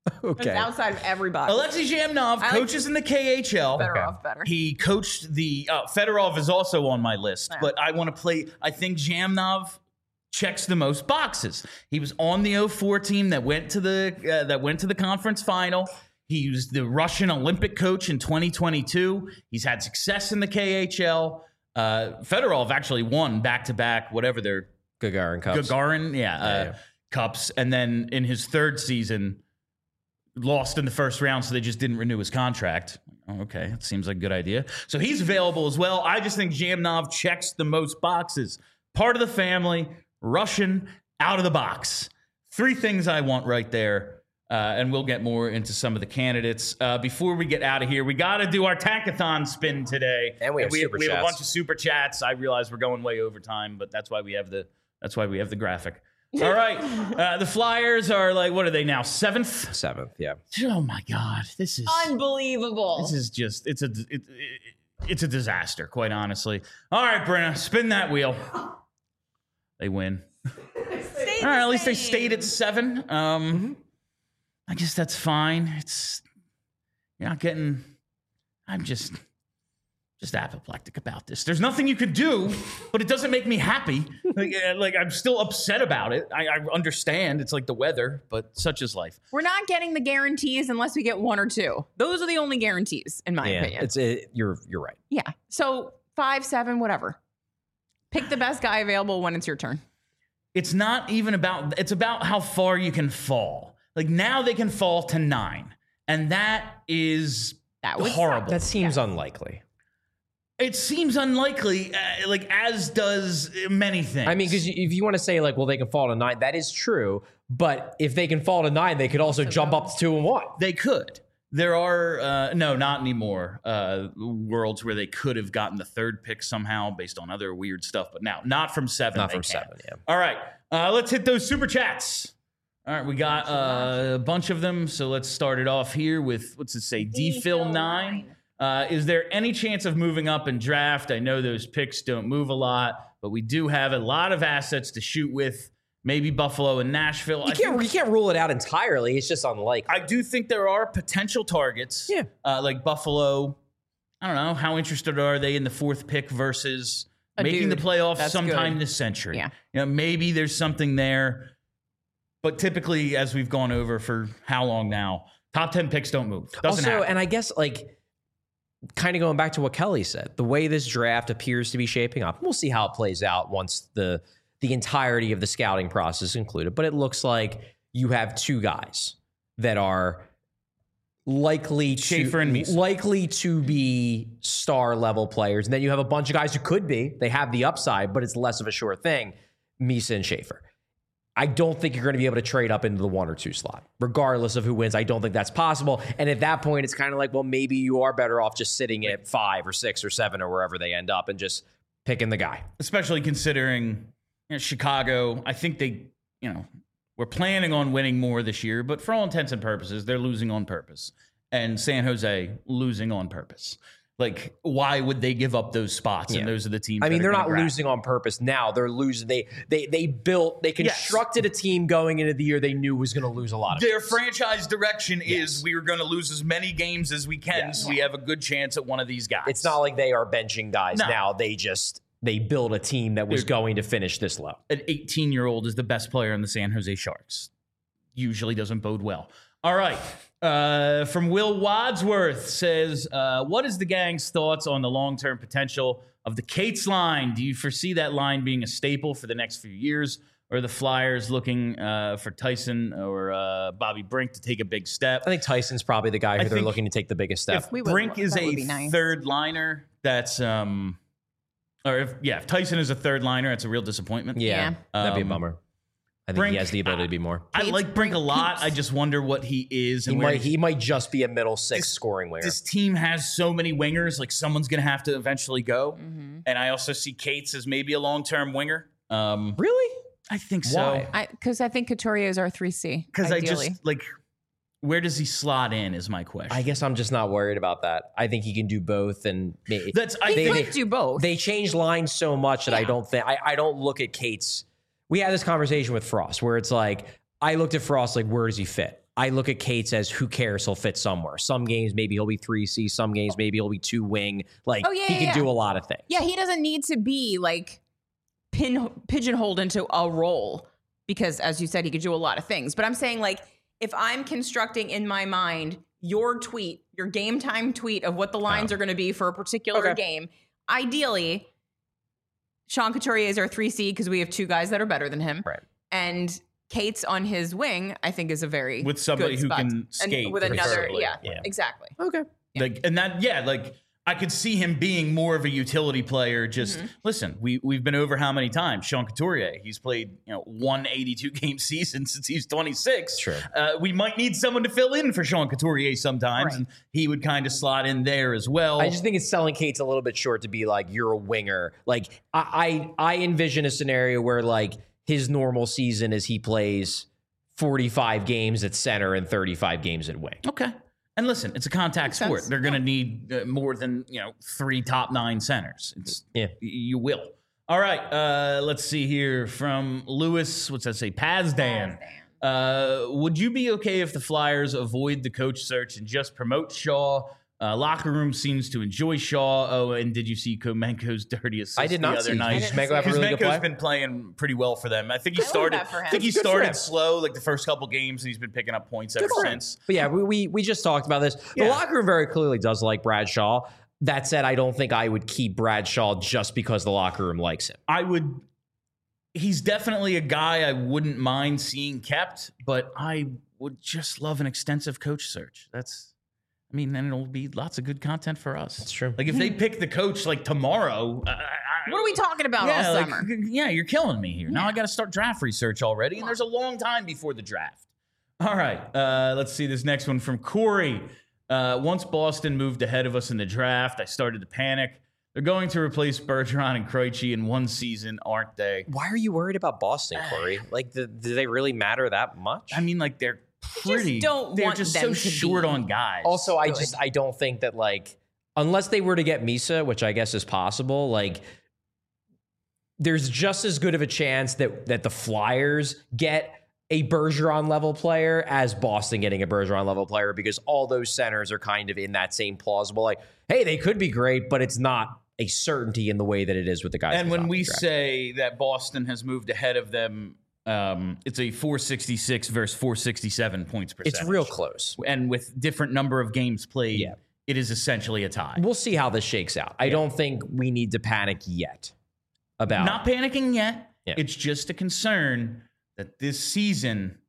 Okay. outside of everybody. Alexei Zhamnov like coaches in the K H L. Better off better. He coached the uh, Fedorov is also on my list, Yeah. but I want to play. I think Zhamnov checks the most boxes. He was on the oh four team that went to the uh, that went to the conference final. He was the Russian Olympic coach in twenty twenty-two. He's had success in the K H L. Uh, Fedorov actually won back to back whatever their Gagarin Cups. Gagarin, yeah, uh, Yeah, yeah. cups, and then in his third season, lost in the first round, so they just didn't renew his contract. Oh, okay, it seems like a good idea. So he's available as well. I just think Zhamnov checks the most boxes. Part of the family, Russian, out of the box. Three things I want right there. Uh, and we'll get more into some of the candidates. Uh, before we get out of here, we got to do our Tankathon spin today. And we have we, super we have a chats. bunch of super chats. I realize we're going way over time, but that's why we have the that's why we have the graphic. All right, uh, the Flyers are like, what are they now? Seventh. Seventh, yeah. Oh my God, this is Unbelievable. this is just it's a it, it, it's a disaster, quite honestly. All right, Brenna, spin that wheel. They win. Stay All right, the at least they same. stayed at seven. Um, I guess that's fine. It's you're not getting. I'm just just apoplectic about this. There's nothing you could do, but it doesn't make me happy. Like, uh, like I'm still upset about it. I, I understand it's like the weather, but such is life. We're not getting the guarantees unless we get one or two. Those are the only guarantees, in my Yeah, opinion. it's it, you're you're right. yeah. So five, seven, whatever. Pick the best guy available when it's your turn. It's not even about. It's about how far you can fall. Like now they can fall to nine, and that is That would horrible. That seems unlikely. It seems unlikely, uh, like as does many things. I mean, because if you want to say like, well, they can fall to nine, that is true. But if they can fall to nine, they could also jump up to two and one. they could. There are uh, no, not anymore. Uh, worlds where they could have gotten the third pick somehow based on other weird stuff, but now not from seven. Not they from can't. seven, yeah. All right, uh, let's hit those super chats. All right, we got uh, a bunch of them, so let's start it off here with what's it say? D Phil nine. Uh, is there any chance of moving up in draft? I know those picks don't move a lot, but we do have a lot of assets to shoot with. Maybe Buffalo and Nashville. You I can't think- you can't rule it out entirely. It's just unlikely. I do think there are potential targets. Yeah. Uh, like Buffalo. I don't know. How interested are they in the fourth pick versus A making dude. the playoffs That's sometime good. this century? Yeah. You know, maybe there's something there. But typically, as we've gone over for how long now, top ten picks don't move. Doesn't also, happen. and I guess like kind of going back to what Kelly said, the way this draft appears to be shaping up, we'll see how it plays out once the the entirety of the scouting process is included. But it looks like you have two guys that are likely to Schaefer and Meese. likely to be star level players, and then you have a bunch of guys who could be. They have the upside, but it's less of a sure thing. Meese and Schaefer. I don't think you're going to be able to trade up into the one or two slot, regardless of who wins. I don't think that's possible. And at that point, it's kind of like, well, maybe you are better off just sitting at five or six or seven or wherever they end up and just picking the guy. Especially considering you know, Chicago, I think they, you know, we're planning on winning more this year, but for all intents and purposes, they're losing on purpose. And San Jose losing on purpose. Like, why would they give up those spots? Yeah. And those are the teams. I mean, that are they're gonna not grab. losing on purpose now. They're losing. They they they built. They constructed a team going into the year they knew was going to lose a lot of. Their games. franchise direction Yes. is we are going to lose as many games as we can, Yes. so we have a good chance at one of these guys. It's not like they are benching guys No. now. They just they built a team that was Dude. going to finish this low. An eighteen-year-old is the best player in the San Jose Sharks. Usually doesn't bode well. All right. Uh, from Will Wadsworth says, uh, what is the gang's thoughts on the long-term potential of the Cates line? Do you foresee that line being a staple for the next few years? Or are the Flyers looking uh, for Tyson or uh, Bobby Brink to take a big step? I think Tyson's probably the guy who I they're think looking to take the biggest step. If We would- Brink is that would a be nice. third liner, that's um, or if yeah, if Tyson is a third liner, it's a real disappointment. yeah, Yeah. that'd be a Um, bummer. I think Brink, he has the ability to be more. I Cates, like Brink a Brink, lot. Peeps. I just wonder what he is He and where might he might just be a middle six This- scoring winger. This team has so many wingers. Like someone's gonna have to eventually go. Mm-hmm. And I also see Cates as maybe a long-term winger. Um, Really? I think Why? so I Because I, think Couturier is our three C. because I ideally. just like where does he slot in? Is my question. I guess I'm just not worried about that. I think he can do both, and may- That's I He they- think could do both. they changed lines so much that I Yeah. don't think I, I don't look at Cates. We had this conversation with Frost where it's like I looked at Frost like where does he fit? I look at Cates as who cares, he'll fit somewhere. Some games maybe he'll be three C, some games maybe he'll be two wing. Like Oh, yeah, he yeah, can yeah. do a lot of things. Yeah, he doesn't need to be like pin pigeonholed into a role because, as you said, he could do a lot of things. But I'm saying, like, if I'm constructing in my mind your tweet, your game time tweet of what the lines Oh. are going to be for a particular Okay. game, ideally, Sean Couturier is our three C because we have two guys that are better than him. Right. And Cates on his wing, I think, is a very With somebody good who spot. can And skate, with another, preferably. yeah, Yeah. exactly. Okay. Like, and that, yeah, like I could see him being more of a utility player. Just Mm-hmm. listen, we we've been over how many times Sean Couturier. He's played, you know, one eighty-two game season since he's twenty-six. Sure. Uh, we might need someone to fill in for Sean Couturier sometimes, Right. and he would kind of slot in there as well. I just think it's selling Cates a little bit short to be like, you're a winger. Like I, I, I envision a scenario where like his normal season is he plays forty-five games at center and thirty-five games at wing. Okay. And listen, it's a contact Makes sport. sense. They're going to need uh, more than, you know, three top nine centers. It's Yeah. y- you will. All right. Uh, let's see here from Lewis. What's that say? Pazdan. Uh, would you be okay if the Flyers avoid the coach search and just promote Shaw? Uh, locker room seems to enjoy Shaw. Oh, and did you see Komenko's dirty assist I did not the other see. night? Did Kuzmenko have a really good Kuzmenko's play? been playing pretty well for them. I think he I love started. that for him. I think he Good for started him. slow, like the first couple games, and he's been picking up points ever for him. since. But yeah, we, we we just talked about this. The Yeah. locker room very clearly does like Brad Shaw. That said, I don't think I would keep Brad Shaw just because the locker room likes him. I would. He's definitely a guy I wouldn't mind seeing kept, but I would just love an extensive coach search. That's, I mean, then it'll be lots of good content for us. That's true. Like if they pick the coach like tomorrow, I, I, What are we talking about yeah, all like, summer? yeah, you're killing me here. Now I got to start draft research already, and there's a long time before the draft. All right, uh, let's see this next one from Corey. Uh, once Boston moved ahead of us in the draft, I started to panic. They're going to replace Bergeron and Krejci in one season, aren't they? Why are you worried about Boston, Corey? Like, the, do they really matter that much? I mean, like they're pretty. don't they're want just them so to short be on guys. Also, I Good. just I don't think that like unless they were to get Misa, which I guess is possible, like there's just as good of a chance that that the Flyers get a Bergeron level player as Boston getting a Bergeron level player because all those centers are kind of in that same plausible like, hey, they could be great, but it's not a certainty in the way that it is with the guys. and at the when top of we the draft. say that Boston has moved ahead of them, um, it's a four sixty-six versus four sixty-seven points percentage. it's real close. and with different number of games played, Yeah. it is essentially a tie. We'll see how this shakes out. I don't think we need to panic yet about Not panicking yet. Yeah. It's just a concern that this season,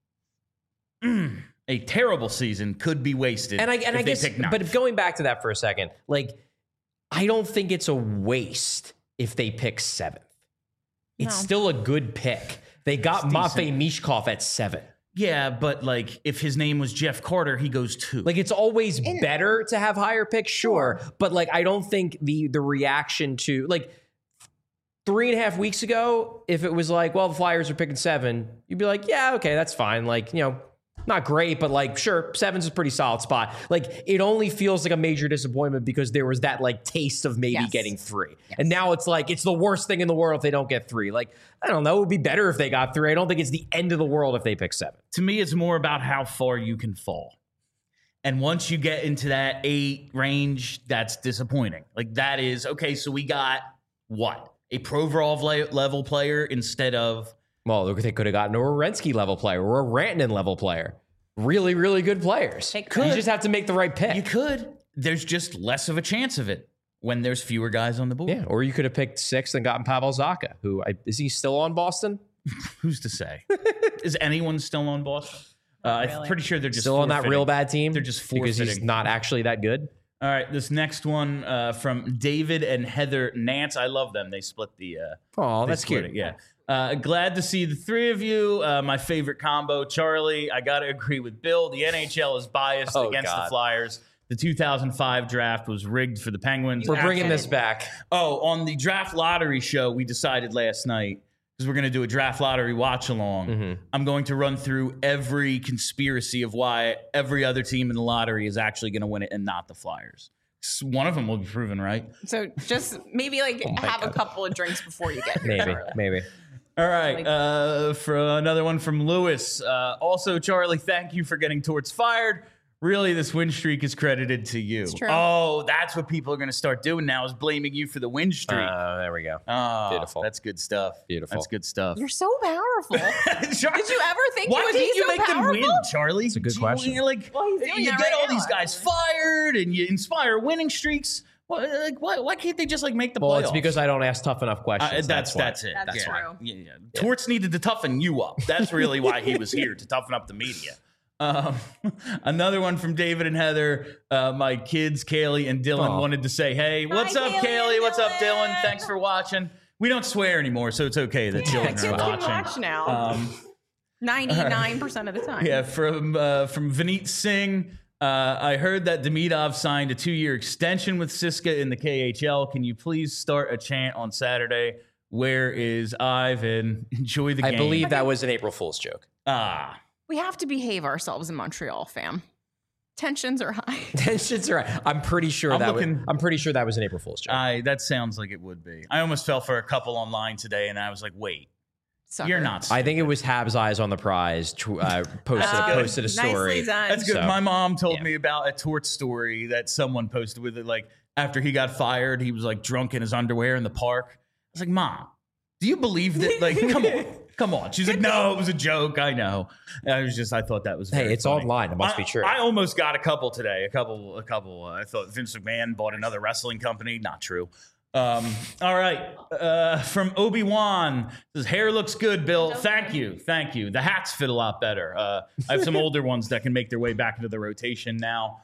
mm, a terrible season, could be wasted. And I and if I they guess, pick ninth. but going back to that for a second, like I don't think it's a waste if they pick seventh. It's No. still a good pick. They got It's Matvei Mishkov at seven. yeah, but like if his name was Jeff Carter, he goes two. Like it's always better to have higher picks, sure, but like I don't think the the reaction to like three and a half weeks ago, if it was like, well, the Flyers are picking seven, you'd be like, yeah, okay, that's fine. Like, you know, not great, but like, sure, seven's a pretty solid spot. Like, it only feels like a major disappointment because there was that like taste of maybe Yes. getting three. And now it's like, it's the worst thing in the world if they don't get three. Like, I don't know, it would be better if they got three. I don't think it's the end of the world if they pick seven. To me, it's more about how far you can fall. And once you get into that eight range, that's disappointing. Like that is okay. So we got what? A Provorov le- level player instead of Well, look, they could have gotten a Werenski level player or a Rantanen level player. Really, really good players. They You could. just have to make the right pick. you could. There's just less of a chance of it when there's fewer guys on the board. Yeah, or you could have picked sixth and gotten Pavel Zacha, who I, is he still on Boston? Who's to say? Is anyone still on Boston? Uh, I'm really. pretty sure they're just Still on that forfeiting. real bad team? They're just because he's forfeiting. not actually that good. All right, this next one uh, from David and Heather Nance. I love them. They split the. Uh, Oh, they that's split cute. it, yeah. Uh, glad to see the three of you. Uh, my favorite combo, Charlie. I got to agree with Bill. The N H L is biased Oh, against God. the Flyers. The two thousand five draft was rigged for the Penguins. We're bringing Actually- this back. Oh, on the draft lottery show, we decided last night because we're going to do a draft lottery watch along. Mm-hmm. I'm going to run through every conspiracy of why every other team in the lottery is actually going to win it and not the Flyers. S- One of them will be proven right. So just maybe like Oh my have a God. couple of drinks before you get here. Maybe, Charlie. maybe. All right. Uh, for another one from Lewis. Uh, also, Charlie, thank you for getting Torts fired. Really, this win streak is credited to you. It's true. Oh, that's what people are going to start doing now is blaming you for the win streak. Uh, there we go. Oh, Beautiful. That's good stuff. Beautiful. That's good stuff. You're so powerful. Did you ever think Why you would didn't be you so make powerful? them win, Charlie? It's a good You- question. you're Like, Well, he's doing you that get right all now, these guys actually. fired and you inspire winning streaks. Why, like, why, why can't they just like make the Well, playoffs? it's because I don't ask tough enough Uh, questions. that's why. that's it. That's yeah. true. Yeah, yeah. Torts needed to toughen you up. That's really why he was here, to toughen up the media. Um, another one from David and Heather. Uh, my kids, Kaylee and Dylan, Aw. wanted to say, "Hey, what's up, Kaylee Kaylee? and What's up, Dylan? Dylan. Thanks for watching." We don't swear anymore, so it's okay that Yeah, children kids are can watching. watch now. Um, ninety-nine percent of the time. yeah, from uh, from Vineet Singh. Uh, I heard that Demidov signed a two-year extension with Siska in the K H L. Can you please start a chant on Saturday? Where is Ivan? Enjoy the I game. believe that was an April Fool's joke. Ah, We have to behave ourselves in Montreal, fam. Tensions are high. Tensions are. I'm pretty sure I'm that. looking- was, I'm pretty sure that was an April Fool's joke. I that sounds like it would be. I almost fell for a couple online today, and I was like, "Wait, Sucker. you're not." I think it was Habs eyes on the prize. tw- Uh, posted That's good. posted a story. Nicely done. That's good. So, My mom told yeah. me about a Tort story that someone posted with it. Like after he got fired, he was like drunk in his underwear in the park. I was like, "Mom, do you believe that? Like, come on, come on." She's like, "No, it was a joke. I know." And I was just, I thought that was. Hey, very it's funny. online. It must I, be true. I almost got a couple today. A couple, a couple. Uh, I thought Vince McMahon bought another wrestling company. Not true. Um, all right. Uh, from Obi-Wan says, hair looks good, Bill. Thank you. Thank you. The hats fit a lot better. Uh, I have some older ones that can make their way back into the rotation now.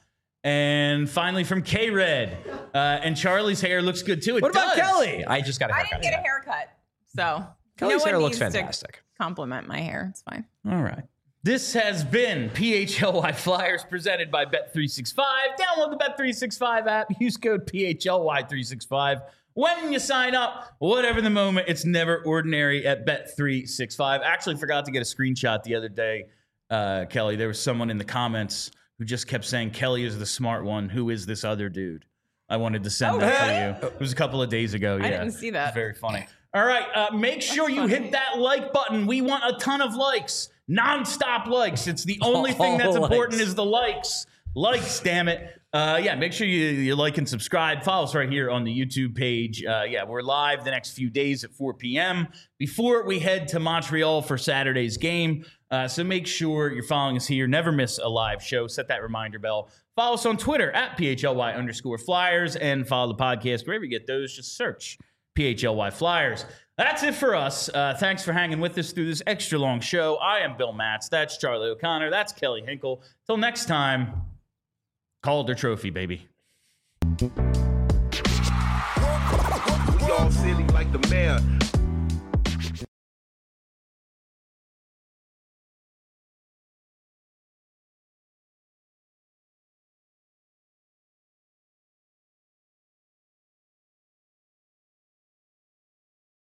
And finally from K-Red. Uh, and Charlie's hair looks good too. It what about does. Kelly? I just got a I haircut. didn't get a haircut. So Kelly's no one hair looks needs to fantastic. compliment my hair. It's fine. All right. This has been P H L Y Flyers presented by Bet three sixty-five. Download the Bet three sixty-five app. Use code P H L Y three sixty-five. When you sign up, whatever the moment, it's never ordinary at Bet three sixty-five. Actually forgot to get a screenshot the other day, uh, Kelly. There was someone in the comments who just kept saying, Kelly is the smart one. Who is this other dude? I wanted to send Oh, that really? to you. It was a couple of days ago. Yeah, didn't see that. It's very funny. All right, uh, make sure you funny. hit that like button. We want a ton of likes, non-stop likes. It's the only thing that's All important likes. is the likes. Likes, damn it. Uh, yeah, make sure you, you like and subscribe. Follow us right here on the YouTube page. Uh, yeah, we're live the next few days at four p.m. before we head to Montreal for Saturday's game. Uh, so make sure you're following us here. Never miss a live show. Set that reminder bell. Follow us on Twitter at P H L Y underscore Flyers and follow the podcast. Wherever you get those, just search P H L Y Flyers. That's it for us. Uh, thanks for hanging with us through this extra long show. I am Bill Matz. That's Charlie O'Connor. That's Kelly Hinkle. Till next time, Calder Trophy, baby.